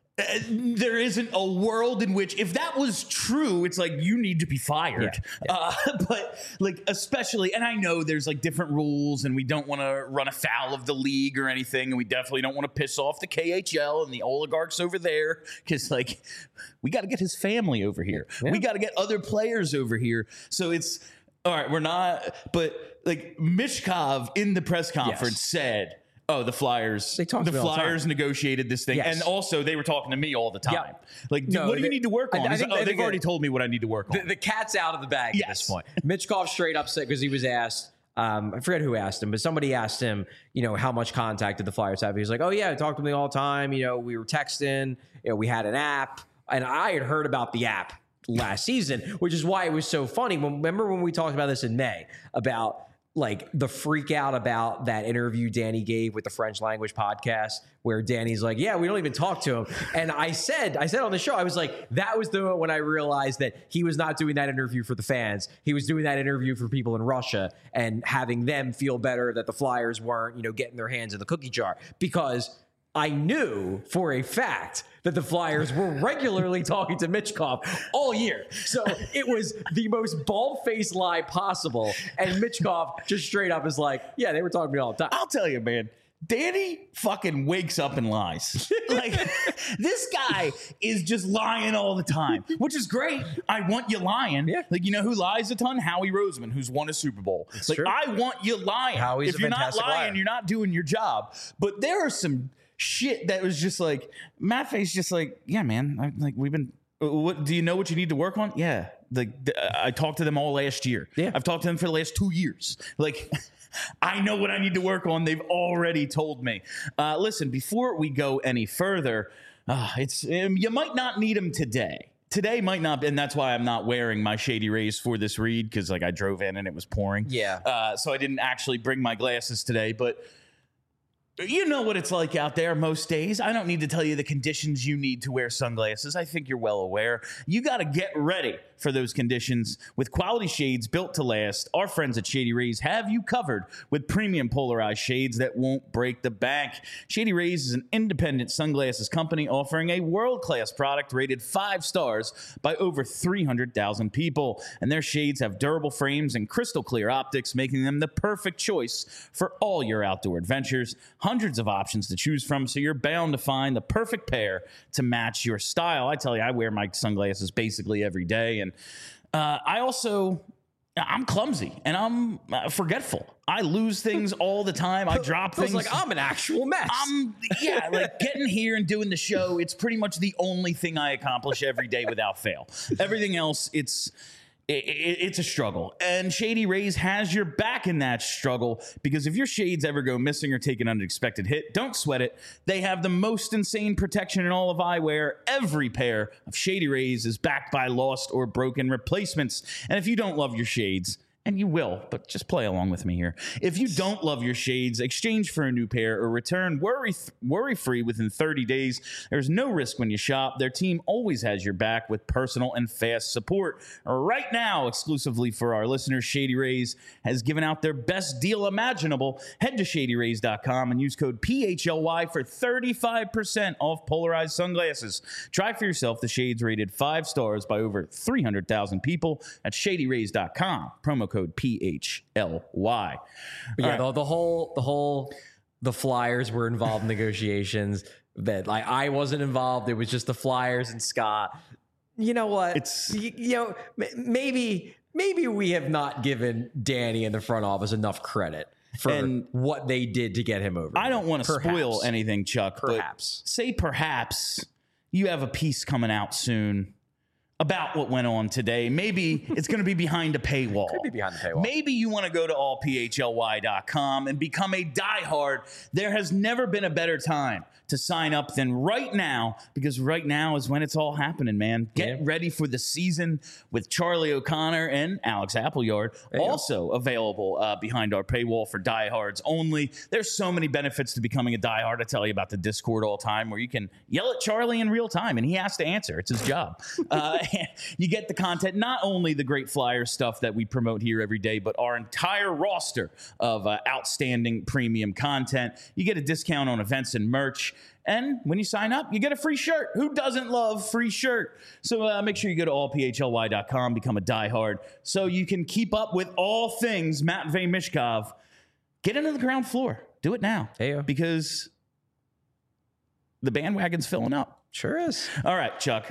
There isn't a world in which, if that was true, it's like you need to be fired. Yeah. But especially, and I know there's different rules, and we don't want to run afoul of the league or anything, and we definitely don't want to piss off the KHL and the oligarchs over there because we got to get his family over here. Yeah. We got to get other players over here. So it's all right. We're not, but Michkov in the press conference said, oh, the Flyers negotiated this thing. Yes. And also they were talking to me all the time. Yep. What do you need to work on? They've already told me what I need to work on. The cat's out of the bag at this point. Michkov straight up said, because he was asked, I forget who asked him, but somebody asked him, how much contact did the Flyers have? He was like, oh yeah, I talked to me all the time. We were texting, we had an app, and I had heard about the app last season, which is why it was so funny. Remember when we talked about this in May about like the freak out about that interview Danny gave with the French language podcast where Danny's like, yeah, we don't even talk to him. And I said on the show, I was like, that was the moment when I realized that he was not doing that interview for the fans. He was doing that interview for people in Russia and having them feel better that the Flyers weren't, getting their hands in the cookie jar, because I knew for a fact that the Flyers were regularly talking to Michkov all year. So it was the most bald-faced lie possible. And Michkov just straight up is like, yeah, they were talking to me all the time. I'll tell you, man. Danny fucking wakes up and lies. Like, this guy is just lying all the time, which is great. I want you lying. Yeah. Like, you know who lies a ton? Howie Roseman, who's won a Super Bowl. That's like, true. I want you lying. Howie's if a you're not fantastic lying, liar. you're not doing your job. But there are some shit that was just like, Matt Faye's just like, yeah, man. We've been. What do you know what you need to work on? Yeah. I talked to them all last year. Yeah. I've talked to them for the last 2 years. Like, I know what I need to work on. They've already told me. Listen, before we go any further, you might not need them today. Today might not, and that's why I'm not wearing my Shady Rays for this read, because I drove in and it was pouring. Yeah. So I didn't actually bring my glasses today, but you know what it's like out there most days. I don't need to tell you the conditions you need to wear sunglasses. I think you're well aware. You got to get ready for those conditions with quality shades built to last. Our friends at Shady Rays have you covered with premium polarized shades that won't break the bank. Shady Rays is an independent sunglasses company offering a world-class product rated 5 stars by over 300,000 people. And their shades have durable frames and crystal clear optics, making them the perfect choice for all your outdoor adventures. Hundreds of options to choose from, so you're bound to find the perfect pair to match your style. I tell you, I wear my sunglasses basically every day, and I'm clumsy and I'm forgetful. I lose things all the time. I drop things. Like I'm an actual mess. Like getting here and doing the show, it's pretty much the only thing I accomplish every day without fail. Everything else, it's a struggle. And Shady Rays has your back in that struggle, because if your shades ever go missing or take an unexpected hit, don't sweat it. They have the most insane protection in all of eyewear. Every pair of Shady Rays is backed by lost or broken replacements. And if you don't love your shades, and you will, but just play along with me here. If you don't love your shades, exchange for a new pair or return worry-free within 30 days. There's no risk when you shop. Their team always has your back with personal and fast support. Right now, exclusively for our listeners, Shady Rays has given out their best deal imaginable. Head to ShadyRays.com and use code PHLY for 35% off polarized sunglasses. Try for yourself the shades rated 5 stars by over 300,000 people at ShadyRays.com. Promo code PHLY. But yeah, the Flyers were involved in negotiations that I wasn't involved. It was just the Flyers and Scott. You know what? Maybe we have not given Danny and the front office enough credit for what they did to get him over. I don't want to spoil anything, Chuck. Perhaps. But perhaps you have a piece coming out soon about what went on today. Maybe it's going to be behind a paywall. Could be behind the paywall. Maybe you want to go to allphly.com and become a diehard. There has never been a better time to sign up than right now, because right now is when it's all happening, man. Get ready for the season with Charlie O'Connor and Alex Appleyard, also available behind our paywall for diehards only. There's so many benefits to becoming a diehard. I tell you about the Discord all the time, where you can yell at Charlie in real time and he has to answer. It's his job. You get the content, not only the great Flyer stuff that we promote here every day, but our entire roster of outstanding premium content. You get a discount on events and merch. And when you sign up, you get a free shirt. Who doesn't love free shirt? So make sure you go to allphly.com, become a diehard, so you can keep up with all things Matvey Michkov. Get into the ground floor. Do it now. Because the bandwagon's filling up. Sure is. All right, Chuck.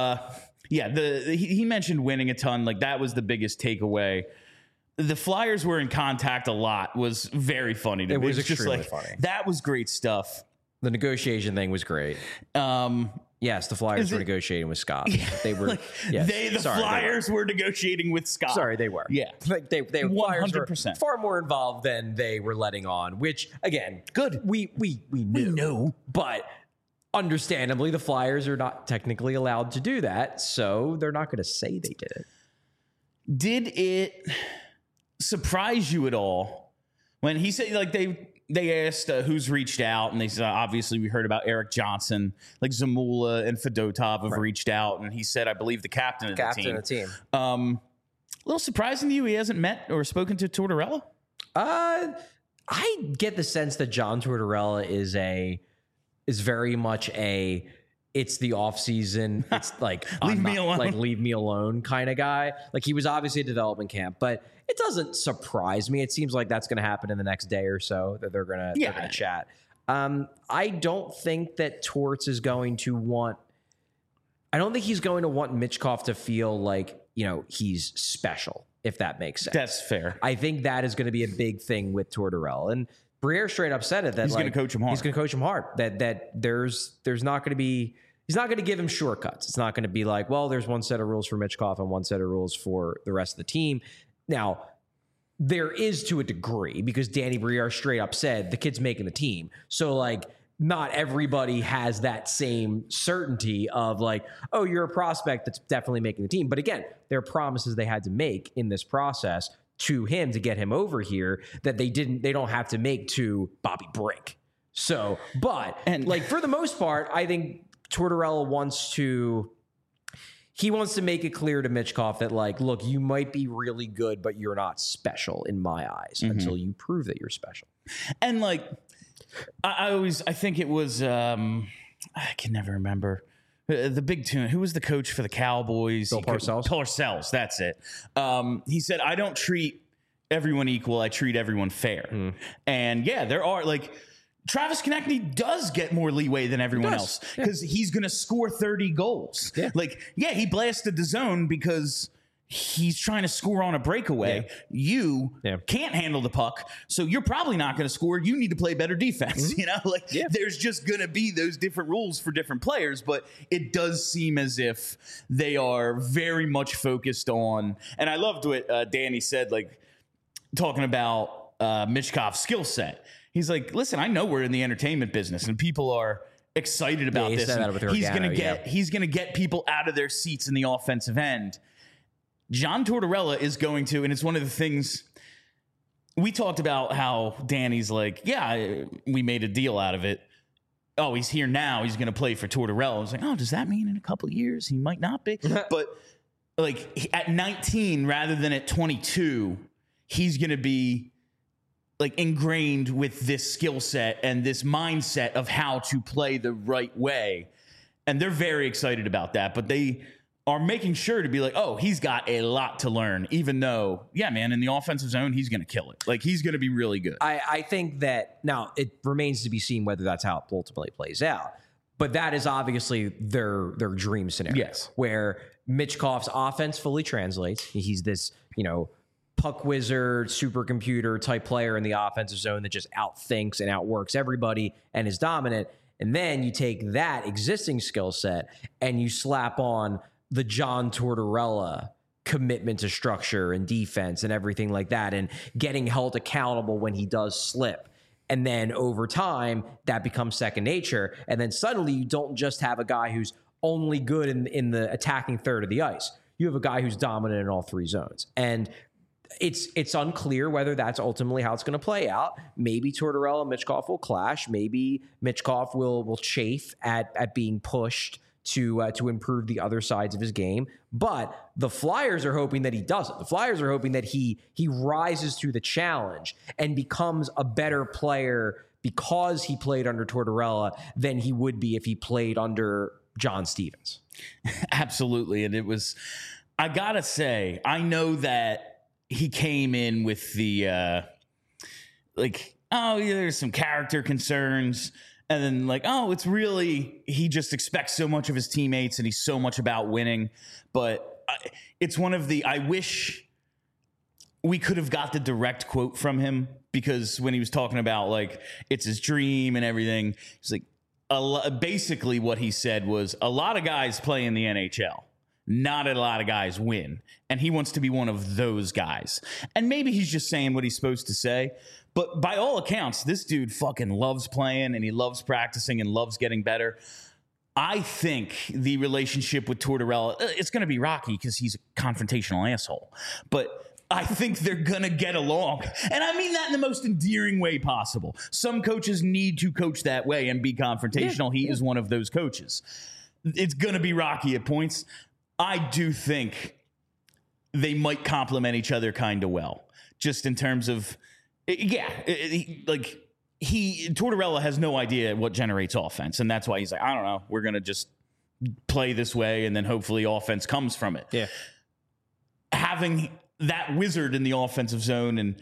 He mentioned winning a ton. Like, that was the biggest takeaway. The Flyers were in contact a lot. Was very funny to me. It was extremely funny. That was great stuff. The negotiation thing was great. Yes, the Flyers were negotiating with Scott. They were. Flyers were negotiating with Scott. Sorry, they were. Yeah, like they 100%. Were far more involved than they were letting on. Which, again, good. We knew, but understandably, the Flyers are not technically allowed to do that, so they're not going to say they did it. Did it surprise you at all when he said, like, they asked who's reached out, and they said, obviously we heard about Eric Johnson, like Zamula and Fedotov have reached out, and he said, I believe the captain of the team. A little surprising to you he hasn't met or spoken to Tortorella? I get the sense that John Tortorella is very much it's the off season. It's like leave me alone. Like leave me alone kind of guy. Like he was obviously a development camp, but it doesn't surprise me. It seems like that's going to happen in the next day or so that they're going to chat. I don't think that Torts is going to want. I don't think he's going to want Michkov to feel like he's special. If that makes sense, that's fair. I think that is going to be a big thing with Tortorella, and Briere straight up said it that he's going to coach him hard. He's going to coach him hard. That there's not going to be. He's not going to give him shortcuts. It's not going to be like, well, there's one set of rules for Michkov and one set of rules for the rest of the team. Now, there is to a degree because Danny Briere straight up said the kid's making the team. So, like, not everybody has that same certainty of like, oh, you're a prospect that's definitely making the team. But again, there are promises they had to make in this process to him to get him over here that they don't have to make to Bobby Brink. So, but like for the most part, I think Tortorella wants to make it clear to Michkov that like, look, you might be really good, but you're not special in my eyes until you prove that you're special. And like, I think it was, I can never remember the big tune. Who was the coach for the Cowboys? Bill Parcells. Parcells, that's it. He said, I don't treat everyone equal. I treat everyone fair. And yeah, there are like, Travis Konechny does get more leeway than everyone else because he's going to score 30 goals. Yeah. Like, yeah, he blasted the zone because he's trying to score on a breakaway. Yeah. You can't handle the puck, so you're probably not going to score. You need to play better defense. There's just going to be those different rules for different players, but it does seem as if they are very much focused on, and I loved what Danny said, like talking about Michkov's skill set. He's like, listen, I know we're in the entertainment business and people are excited about this. He's going to get people out of their seats in the offensive end. John Tortorella is going to, and it's one of the things we talked about how Danny's like, yeah, we made a deal out of it. Oh, he's here now. He's going to play for Tortorella. I was like, oh, does that mean in a couple of years he might not be? But like at 19 rather than at 22, he's going to be like ingrained with this skill set and this mindset of how to play the right way. And they're very excited about that, but they are making sure to be like, oh, he's got a lot to learn, even though, yeah, man, in the offensive zone, he's going to kill it. Like, he's going to be really good. I think that now it remains to be seen whether that's how it ultimately plays out. But that is obviously their dream scenario. Yes. Where Michkov's offense fully translates. He's this, puck wizard, supercomputer type player in the offensive zone that just outthinks and outworks everybody and is dominant. And then you take that existing skill set and you slap on the John Tortorella commitment to structure and defense and everything like that, and getting held accountable when he does slip. And then over time, that becomes second nature. And then suddenly you don't just have a guy who's only good in the attacking third of the ice. You have a guy who's dominant in all three zones. And it's unclear whether that's ultimately how it's going to play out. Maybe Tortorella and Michkov will clash. Maybe Michkov will chafe at being pushed to improve the other sides of his game. But the Flyers are hoping that he doesn't. The Flyers are hoping that he rises to the challenge and becomes a better player because he played under Tortorella than he would be if he played under John Stevens. Absolutely. And it was, I got to say, I know that he came in with the, there's some character concerns. And then like, oh, it's really, he just expects so much of his teammates and he's so much about winning. But it's one of the, I wish we could have got the direct quote from him, because when he was talking about like, it's his dream and everything, he's like, basically what he said was a lot of guys play in the NHL. Not a lot of guys win. And he wants to be one of those guys. And maybe he's just saying what he's supposed to say. But by all accounts, this dude fucking loves playing and he loves practicing and loves getting better. I think the relationship with Tortorella, it's going to be rocky because he's a confrontational asshole. But I think they're going to get along. And I mean that in the most endearing way possible. Some coaches need to coach that way and be confrontational. He is one of those coaches. It's going to be rocky at points. I do think they might complement each other kind of well, just in terms of, Tortorella has no idea what generates offense. And that's why he's like, I don't know, we're going to just play this way and then hopefully offense comes from it. Yeah. Having that wizard in the offensive zone and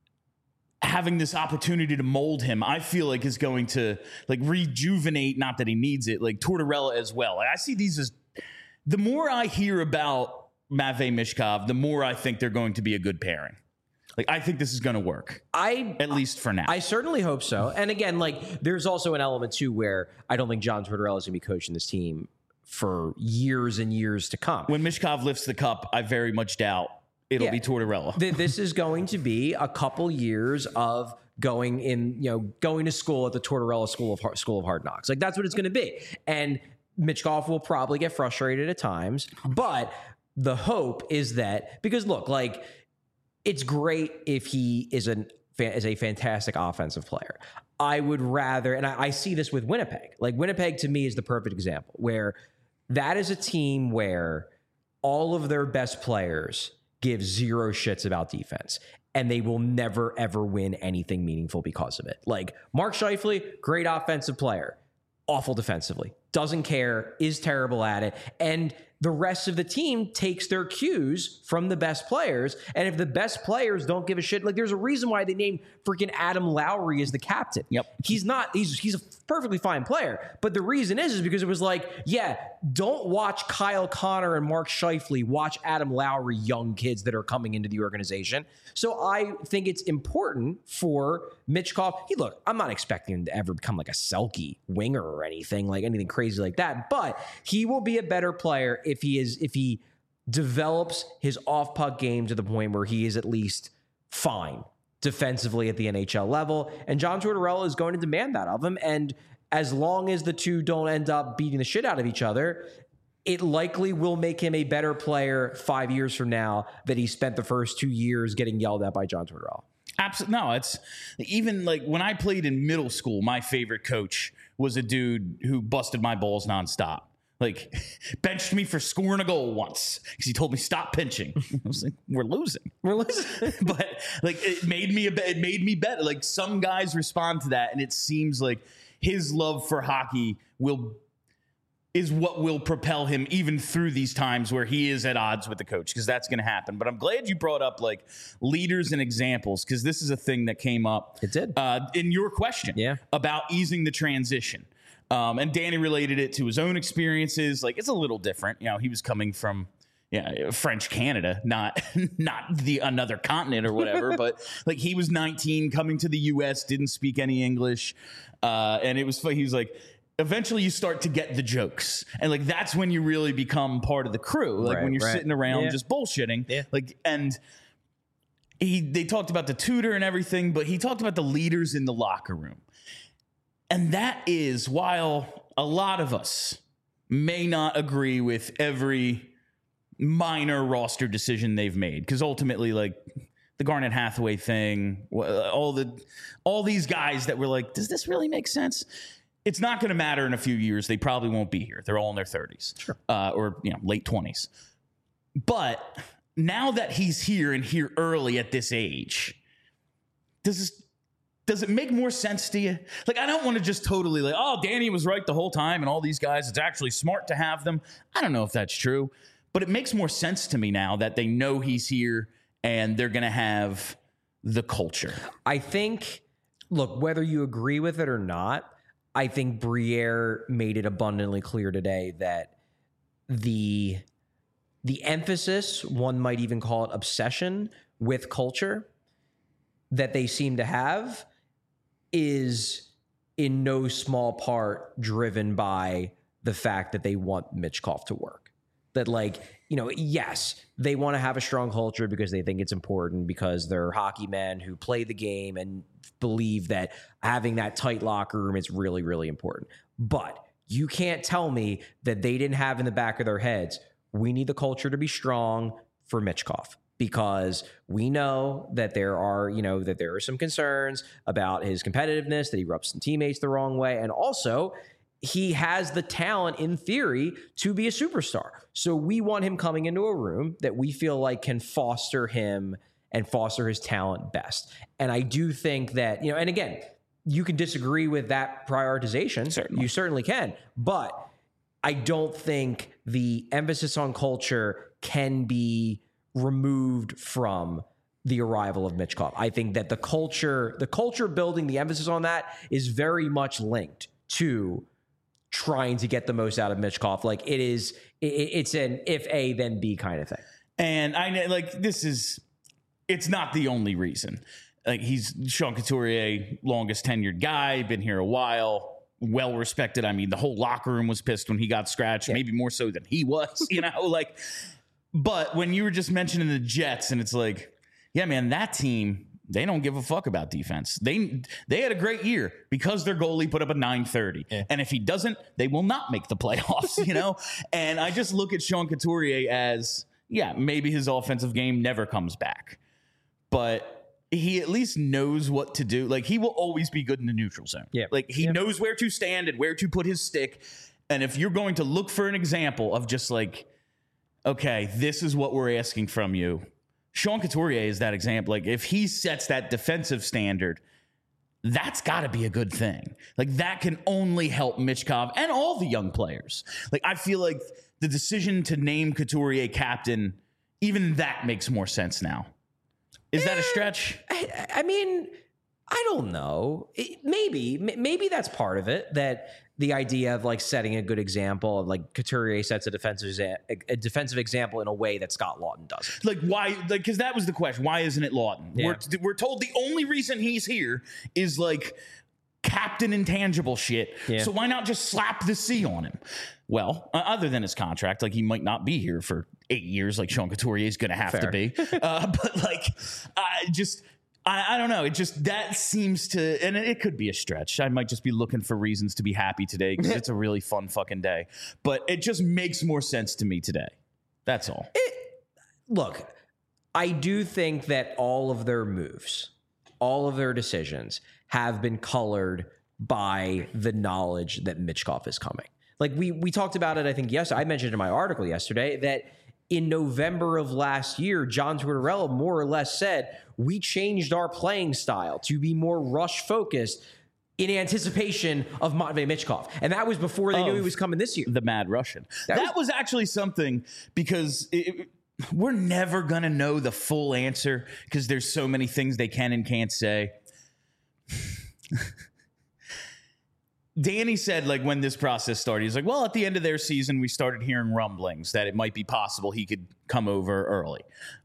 having this opportunity to mold him, I feel like is going to like rejuvenate, not that he needs it, like Tortorella as well. I see these as, the more I hear about Matvei Michkov, the more I think they're going to be a good pairing. Like, I think this is going to work. At least for now. I certainly hope so. And again, like, there's also an element too where I don't think John Tortorella is going to be coaching this team for years and years to come. When Michkov lifts the cup, I very much doubt it'll be Tortorella. This is going to be a couple years of going to school at the Tortorella School of Hard Knocks. Like, that's what it's going to be. And Michkov will probably get frustrated at times, but the hope is that, because look, like, it's great if he is a fantastic offensive player. I would rather, and I see this with Winnipeg. Like, Winnipeg to me is the perfect example, where that is a team where all of their best players give zero shits about defense, and they will never, ever win anything meaningful because of it. Like, Mark Scheifele, great offensive player, awful defensively, doesn't care, is terrible at it, and the rest of the team takes their cues from the best players. And if the best players don't give a shit, like, there's a reason why they named freaking Adam Lowry as the captain. Yep. He's a perfectly fine player. But the reason is because it was like, yeah, don't watch Kyle Connor and Mark Scheifele, watch Adam Lowry, young kids that are coming into the organization. So I think it's important for Michkov. Look, I'm not expecting him to ever become like a Selke winger or anything crazy like that, but he will be a better player if he develops his off-puck game to the point where he is at least fine defensively at the NHL level. And John Tortorella is going to demand that of him. And as long as the two don't end up beating the shit out of each other, it likely will make him a better player 5 years from now that he spent the first 2 years getting yelled at by John Tortorella. Absolutely. No, it's even like when I played in middle school, my favorite coach was a dude who busted my balls nonstop. Like, benched me for scoring a goal once because he told me stop pinching. I was like, we're losing. But like, it made me better. Like, some guys respond to that, and it seems like his love for hockey is what will propel him even through these times where he is at odds with the coach, because that's going to happen. But I'm glad you brought up like leaders and examples, because this is a thing that came up. It did. In your question about easing the transition. And Danny related it to his own experiences. Like, it's a little different. You know, he was coming from French Canada, not another continent or whatever. But like, he was 19 coming to the U.S., didn't speak any English. And it was funny. He was like, eventually you start to get the jokes. And like, that's when you really become part of the crew. Like, when you're sitting around just bullshitting. Yeah. Like, and they talked about the tutor and everything, but he talked about the leaders in the locker room. And that is, while a lot of us may not agree with every minor roster decision they've made, because ultimately, like, the Garnet Hathaway thing, all these guys that were like, does this really make sense? It's not going to matter in a few years. They probably won't be here. They're all in their 30s, sure. Or late 20s. But now that he's here and here early at this age, does it make more sense to you? Like, I don't want to just totally like, oh, Danny was right the whole time and all these guys, it's actually smart to have them. I don't know if that's true, but it makes more sense to me now that they know he's here and they're going to have the culture. I think, look, whether you agree with it or not, I think Briere made it abundantly clear today that the emphasis, one might even call it obsession with culture, that they seem to have is in no small part driven by the fact that they want Michkov to work. That, like, yes, they want to have a strong culture because they think it's important, because they're hockey men who play the game and believe that having that tight locker room is really, really important. But you can't tell me that they didn't have in the back of their heads, we need the culture to be strong for Michkov. because we know that there are some concerns about his competitiveness, that he rubs some teammates the wrong way, and also he has the talent in theory to be a superstar. So we want him coming into a room that we feel like can foster him and foster his talent best. And I do think that, and again, you can disagree with that prioritization. Certainly. You certainly can. But I don't think the emphasis on culture can be removed from the arrival of Michkov. I think that the culture building, the emphasis on that is very much linked to trying to get the most out of Michkov. Like it's an if A, then B kind of thing. And I know, like, it's not the only reason. Like, he's Sean Couturier, longest tenured guy, been here a while, well respected. I mean, the whole locker room was pissed when he got scratched, maybe more so than he was, like, but when you were just mentioning the Jets, and it's like, yeah, man, that team, they don't give a fuck about defense. They had a great year because their goalie put up a 930. Yeah. And if he doesn't, they will not make the playoffs, And I just look at Sean Couturier as, yeah, maybe his offensive game never comes back, but he at least knows what to do. Like, he will always be good in the neutral zone. Yeah. Like, he knows where to stand and where to put his stick. And if you're going to look for an example of just like, okay, this is what we're asking from you, Sean Couturier is that example. Like, if he sets that defensive standard, that's got to be a good thing. Like, that can only help Michkov and all the young players. Like, I feel like the decision to name Couturier captain, even that makes more sense now. Is that a stretch? I mean, I don't know. Maybe that's part of it, that the idea of like setting a good example of like Couturier sets a defensive example in a way that Scott Laughton does. Like, why? Like, because that was the question. Why isn't it Laughton? Yeah. We're told the only reason he's here is like captain intangible shit. Yeah. So why not just slap the C on him? Well, other than his contract, like, he might not be here for 8 years, like Sean Couturier is going to have to be. But like, I don't know. It just, that seems to, and it could be a stretch. I might just be looking for reasons to be happy today because it's a really fun fucking day. But it just makes more sense to me today. That's all. Look, I do think that all of their moves, all of their decisions have been colored by the knowledge that Michkov is coming. Like, we talked about it, I think, I mentioned in my article yesterday that in November of last year, John Tortorella more or less said, we changed our playing style to be more rush-focused in anticipation of Matvei Michkov. And that was before they knew he was coming this year. The Mad Russian. That was actually something, because we're never going to know the full answer because there's so many things they can and can't say. Danny said, like, when this process started, he's like, well, at the end of their season, we started hearing rumblings that it might be possible he could come over early.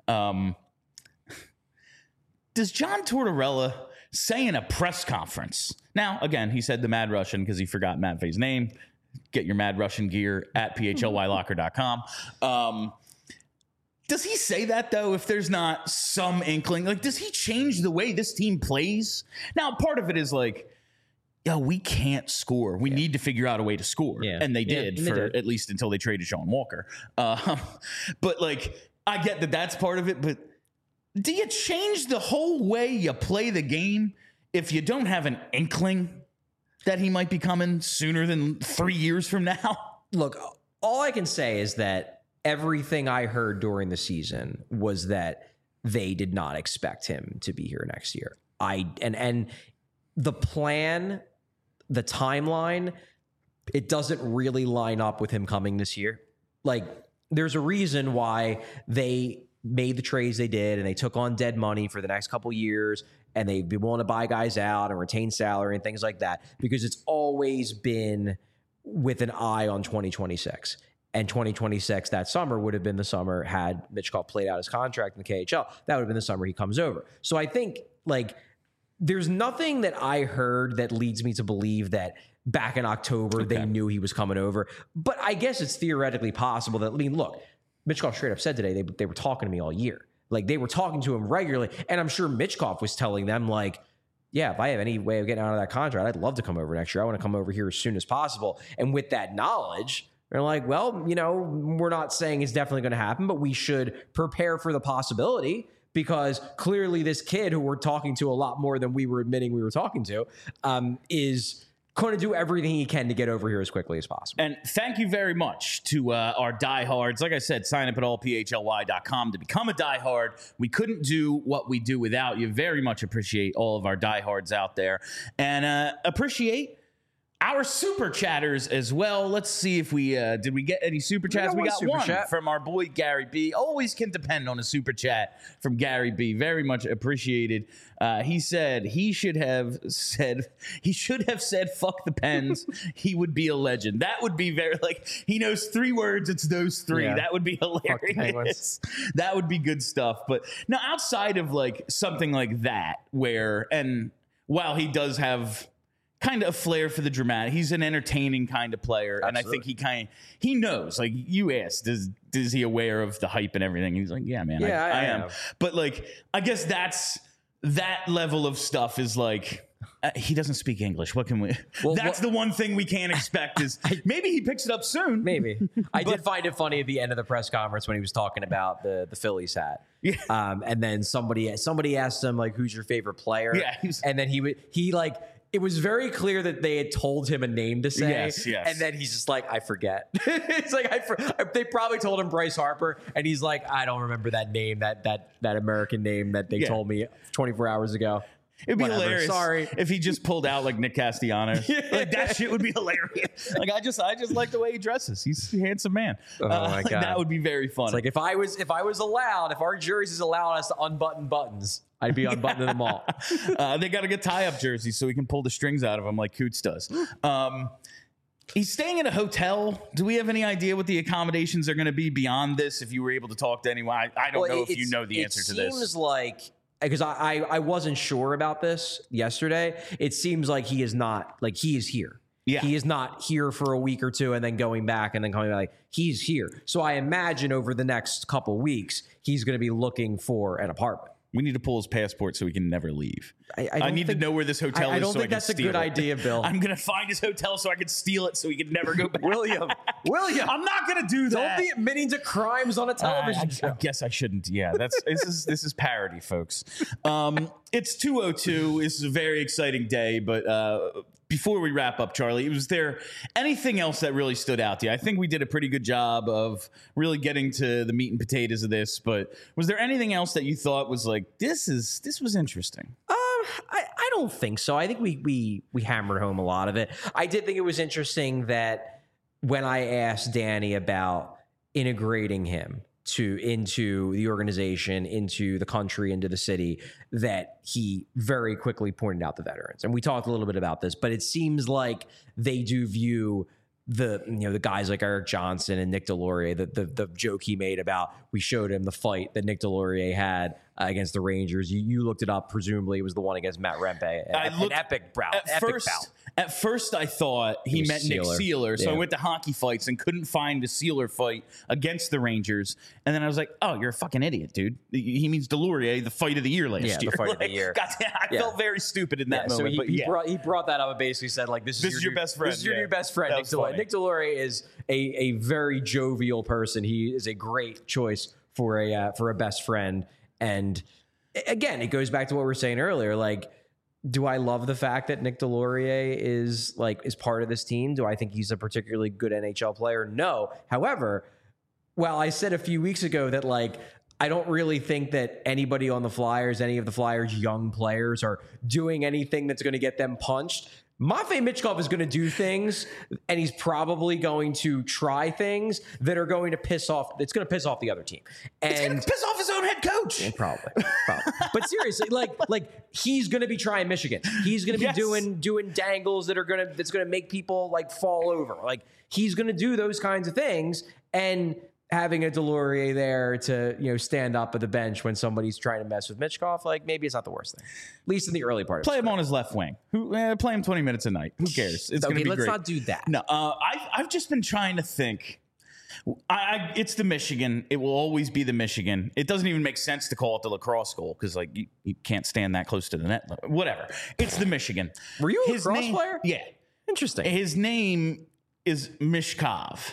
Does John Tortorella say in a press conference? Now, again, he said the Mad Russian because he forgot Matvei's name. Get your Mad Russian gear at phlylocker.com. Does he say that, though, if there's not some inkling? Like, does he change the way this team plays? Now, part of it is like, yo, we can't score. We need to figure out a way to score. Yeah. And they did at least until they traded Sean Walker. But, like, I get that that's part of it. But do you change the whole way you play the game if you don't have an inkling that he might be coming sooner than 3 years from now? Look, all I can say is that everything I heard during the season was that they did not expect him to be here next year. And the plan, the timeline, it doesn't really line up with him coming this year. Like, there's a reason why they made the trades they did and they took on dead money for the next couple years and they'd be willing to buy guys out and retain salary and things like that, because it's always been with an eye on 2026. And 2026, that summer, would have been the summer had Michkov played out his contract in the KHL. That would have been the summer he comes over. So I think, like, there's nothing that I heard that leads me to believe that back in October they knew he was coming over. But I guess it's theoretically possible that, I mean, look, Michkov straight up said today they were talking to me all year. Like, they were talking to him regularly. And I'm sure Michkov was telling them, like, yeah, if I have any way of getting out of that contract, I'd love to come over next year. I want to come over here as soon as possible. And with that knowledge, They're like, well, we're not saying it's definitely going to happen, but we should prepare for the possibility, because clearly this kid who we're talking to a lot more than we were admitting we were talking to is going to do everything he can to get over here as quickly as possible. And thank you very much to our diehards. Like I said, sign up at allphly.com to become a diehard. We couldn't do what we do without you. Very much appreciate all of our diehards out there. And appreciate our super chatters as well. Let's see if we did we get any super chats? We got one from our boy Gary B. Always can depend on a super chat from Gary B. Very much appreciated. He said he should have said fuck the Pens. He would be a legend. That would be very, like, he knows 3 words. It's those 3. Yeah. That would be hilarious. That would be good stuff. But now, outside of like something like that, while he does have kind of a flair for the dramatic, he's an entertaining kind of player. Absolutely. And I think he knows, like you asked, is he aware of the hype and everything? He's like, yeah, man, I am. But like, I guess that level of stuff is like, he doesn't speak English. What can we? Well, that's the one thing we can't expect is maybe he picks it up soon. Maybe. I did find it funny at the end of the press conference when he was talking about the Phillies hat. Yeah. And then somebody asked him, like, who's your favorite player? Yeah. And then he like, it was very clear that they had told him a name to say. Yes. And then he's just like, I forget. It's like, they probably told him Bryce Harper, and he's like, I don't remember that name, that American name that they told me 24 hours ago. It'd be hilarious. Sorry, if he just pulled out like Nick Castellanos. Like, that shit would be hilarious. Like, I just like the way he dresses. He's a handsome man. Oh my God, that would be very funny. It's like if I was allowed, if our jerseys allowed us to unbutton buttons, I'd be unbuttoning them all. They got to get tie-up jerseys so we can pull the strings out of them like Coots does. He's staying in a hotel. Do we have any idea what the accommodations are going to be beyond this? If you were able to talk to anyone, I don't know if you know the answer to this. It seems like, because I wasn't sure about this yesterday. It seems like he is not, like, he is here. Yeah. He is not here for a week or two and then going back and then coming back. Like, he's here. So I imagine over the next couple weeks, he's going to be looking for an apartment. We need to pull his passport so he can never leave. I need to know where this hotel is. I don't think that's a good idea, Bill. I'm going to find his hotel so I can steal it so he can never go back. William, I'm not going to do that. Don't be admitting to crimes on a television show. I guess I shouldn't. Yeah, this is parody, folks. It's 2:02. This is a very exciting day, but before we wrap up, Charlie, was there anything else that really stood out to you? I think we did a pretty good job of really getting to the meat and potatoes of this, but was there anything else that you thought was like, this was interesting? I don't think so. I think we hammered home a lot of it. I did think it was interesting that when I asked Danny about integrating him into the organization, into the country, into the city, that he very quickly pointed out the veterans. And we talked a little bit about this, but it seems like they do view the guys like Eric Johnson and Nick Delorier, the joke he made about, we showed him the fight that Nick Delorier had against the Rangers. You looked it up. Presumably it was the one against Matt Rempe. An epic bout. At first, I thought he meant Nick Seeler, so I went to Hockey Fights and couldn't find a Seeler fight against the Rangers. And then I was like, oh, you're a fucking idiot, dude. He means Delorier, the fight of the year last year. Yeah, the fight of the year. Goddamn, I felt very stupid in that moment. So he brought that up and basically said, like, this is your best friend. This is your new best friend, Nick Delorier. Nick Delorier is a very jovial person. He is a great choice for a best friend. And again, it goes back to what we were saying earlier, like, do I love the fact that Nick Delorier is part of this team? Do I think he's a particularly good NHL player? No. However, while I said a few weeks ago that, like, I don't really think that anybody on the Flyers, any of the Flyers' young players, are doing anything that's going to get them punched, Matvei Michkov is going to do things, and he's probably going to try things that are going to piss off. It's going to piss off the other team, and it's going to piss off his own head coach. Yeah, probably. But seriously, like he's going to be trying Michigan. He's going to be doing dangles that's going to make people like fall over. Like, he's going to do those kinds of things, and having a Delorier there to stand up at the bench when somebody's trying to mess with Michkov, like, maybe it's not the worst thing. At least in the early part. Play him on his left wing. Play him 20 minutes a night. Who cares? It's going to be great. Let's not do that. No, I've just been trying to think. It's the Michigan. It will always be the Michigan. It doesn't even make sense to call it the lacrosse goal because, like, you can't stand that close to the net. Whatever. It's the Michigan. Were you a lacrosse player? Yeah. Interesting. His name is Michkov.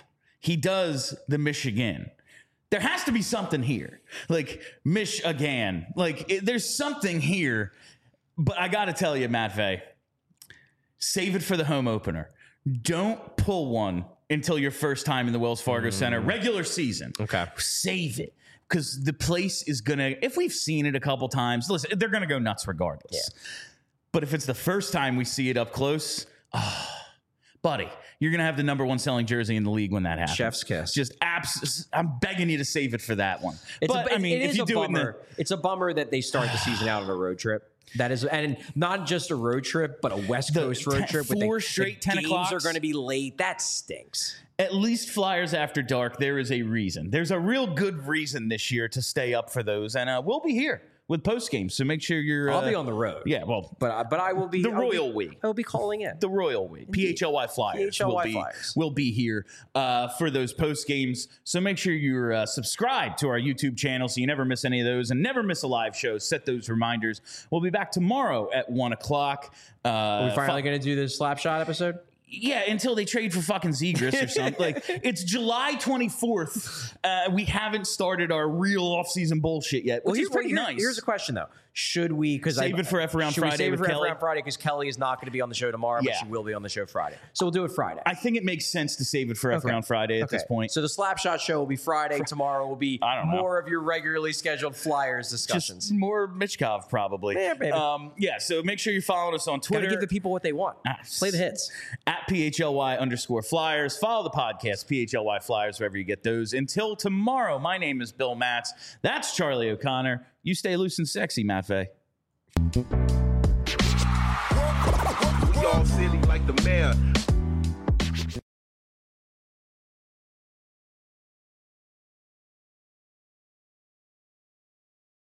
he does the Michigan. There has to be something here. Like, Michigan. Like, there's something here. But I got to tell you, Matt Vey, save it for the home opener. Don't pull one until your first time in the Wells Fargo Center regular season. Okay. Save it. Because the place is going to, if we've seen it a couple times, listen, they're going to go nuts regardless. Yeah. But if it's the first time we see it up close, buddy, you're going to have the number 1 selling jersey in the league when that happens. Chef's kiss. Just I'm begging you to save it for that one. It's a bummer that they start the season out on a road trip. That is, and not just a road trip, but a West Coast road trip. Four straight 10 o'clocks are going to be late. That stinks. At least Flyers After Dark, there is a reason. There's a real good reason this year to stay up for those, and we'll be here with post games. So make sure you're. I'll be on the road. Yeah, well, but I will be the Royal We. I will be calling in the Royal We. PHLY Flyers will be here for those post games. So make sure you're subscribed to our YouTube channel so you never miss any of those and never miss a live show. Set those reminders. We'll be back tomorrow at 1:00. Are we finally going to do this Slapshot episode? Yeah, until they trade for fucking Zegras or something. Like, it's July 24th. We haven't started our real offseason bullshit yet, which is pretty nice. Here's a question, though. Should we save it for F Around Friday? Save it for F Around Friday because Kelly is not going to be on the show tomorrow, but she will be on the show Friday. So we'll do it Friday. I think it makes sense to save it for F Around Friday at this point. So the Slapshot show will be Friday. Tomorrow will be more of your regularly scheduled Flyers discussions. Just more Michkov, probably. Yeah, baby. So make sure you're following us on Twitter. Gotta give the people what they want. Play the hits. At PHLY_Flyers. Follow the podcast, PHLY Flyers, wherever you get those. Until tomorrow, my name is Bill Matz. That's Charlie O'Connor. You stay loose and sexy, Matt Vey. We all silly like the mayor.